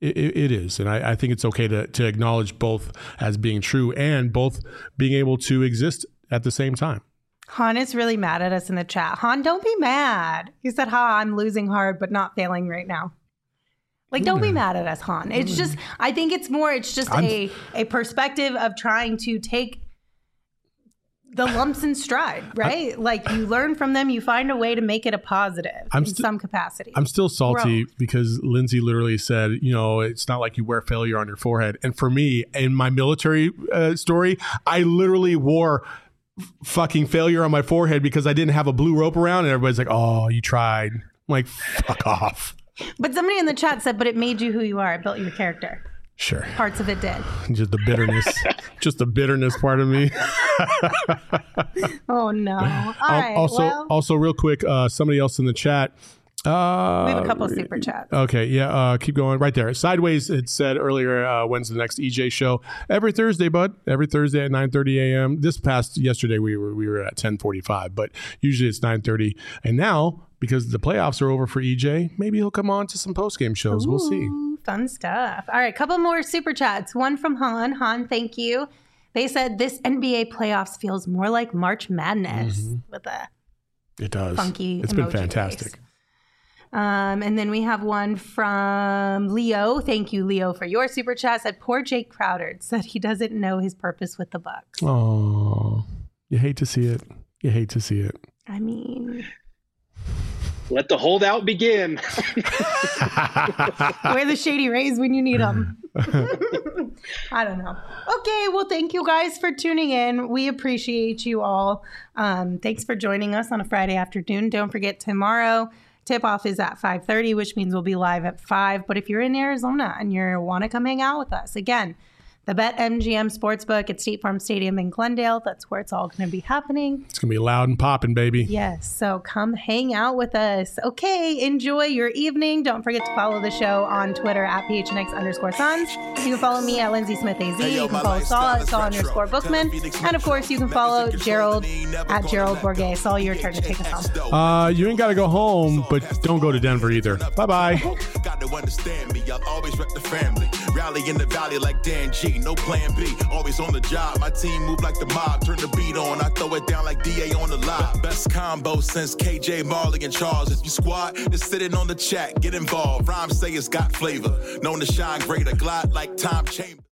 It is. And I think it's okay to acknowledge both as being true and both being able to exist at the same time. Han is really mad at us in the chat. Han, don't be mad. He said, I'm losing hard, but not failing right now. Like, don't be mad at us, Han. It's just, I think it's just a perspective of trying to take the lumps in stride, right? Like, you learn from them, you find a way to make it a positive in some capacity. I'm still salty because Lindsay literally said, it's not like you wear failure on your forehead. And for me, in my military story, I literally wore fucking failure on my forehead because I didn't have a blue rope around, and everybody's like, oh, you tried. I'm like, fuck off. But somebody in the chat said, but it made you who you are. It built your character. Sure. Parts of it did. Just the bitterness. Just the bitterness part of me. Oh, no. All right. Also, real quick, somebody else in the chat. We have a couple of super chats. Okay, yeah, keep going. Right there. Sideways, it said earlier, when's the next EJ show? Every Thursday, bud. Every Thursday at 9:30 a.m. Yesterday, we were at 10:45, but usually it's 9:30. And now, because the playoffs are over for EJ, maybe he'll come on to some post-game shows. We'll see. Fun stuff. All right, couple more super chats. One from Han. Han, thank you. They said this NBA playoffs feels more like March Madness with a funky It's been fantastic. Face. And then we have one from Leo. Thank you, Leo, for your super chat. Said poor Jake Crowder said he doesn't know his purpose with the Bucks. Oh, you hate to see it. I mean, let the holdout begin. Where the shady rays when you need them. I don't know. Okay, well, thank you guys for tuning in. We appreciate you all. Thanks for joining us on a Friday afternoon. Don't forget, tomorrow tip-off is at 5:30, which means we'll be live at 5. But if you're in Arizona and you want to come hang out with us, again, the BetMGM Sportsbook at State Farm Stadium in Glendale. That's where it's all going to be happening. It's going to be loud and popping, baby. Yes, so come hang out with us. Okay, enjoy your evening. Don't forget to follow the show on Twitter at PHNX_Suns. You can follow me at Lindsay Smith AZ. You can follow Saul at Saul_Bookman. And of course, you can follow Gerald at Gerald Bourget. Saul, your turn to take us home. You ain't got to go home, but don't go to Denver either. Bye-bye. Got to understand me. I'll always rep the family. Rally in the valley like Dan G. No plan B, always on the job. My team move like the mob, turn the beat on. I throw it down like DA on the live. Best combo since KJ, Marley, and Charles. If you squad, just sitting on the chat, get involved. Rhymes say it's got flavor. Known to shine greater, glide like Tom Chambers.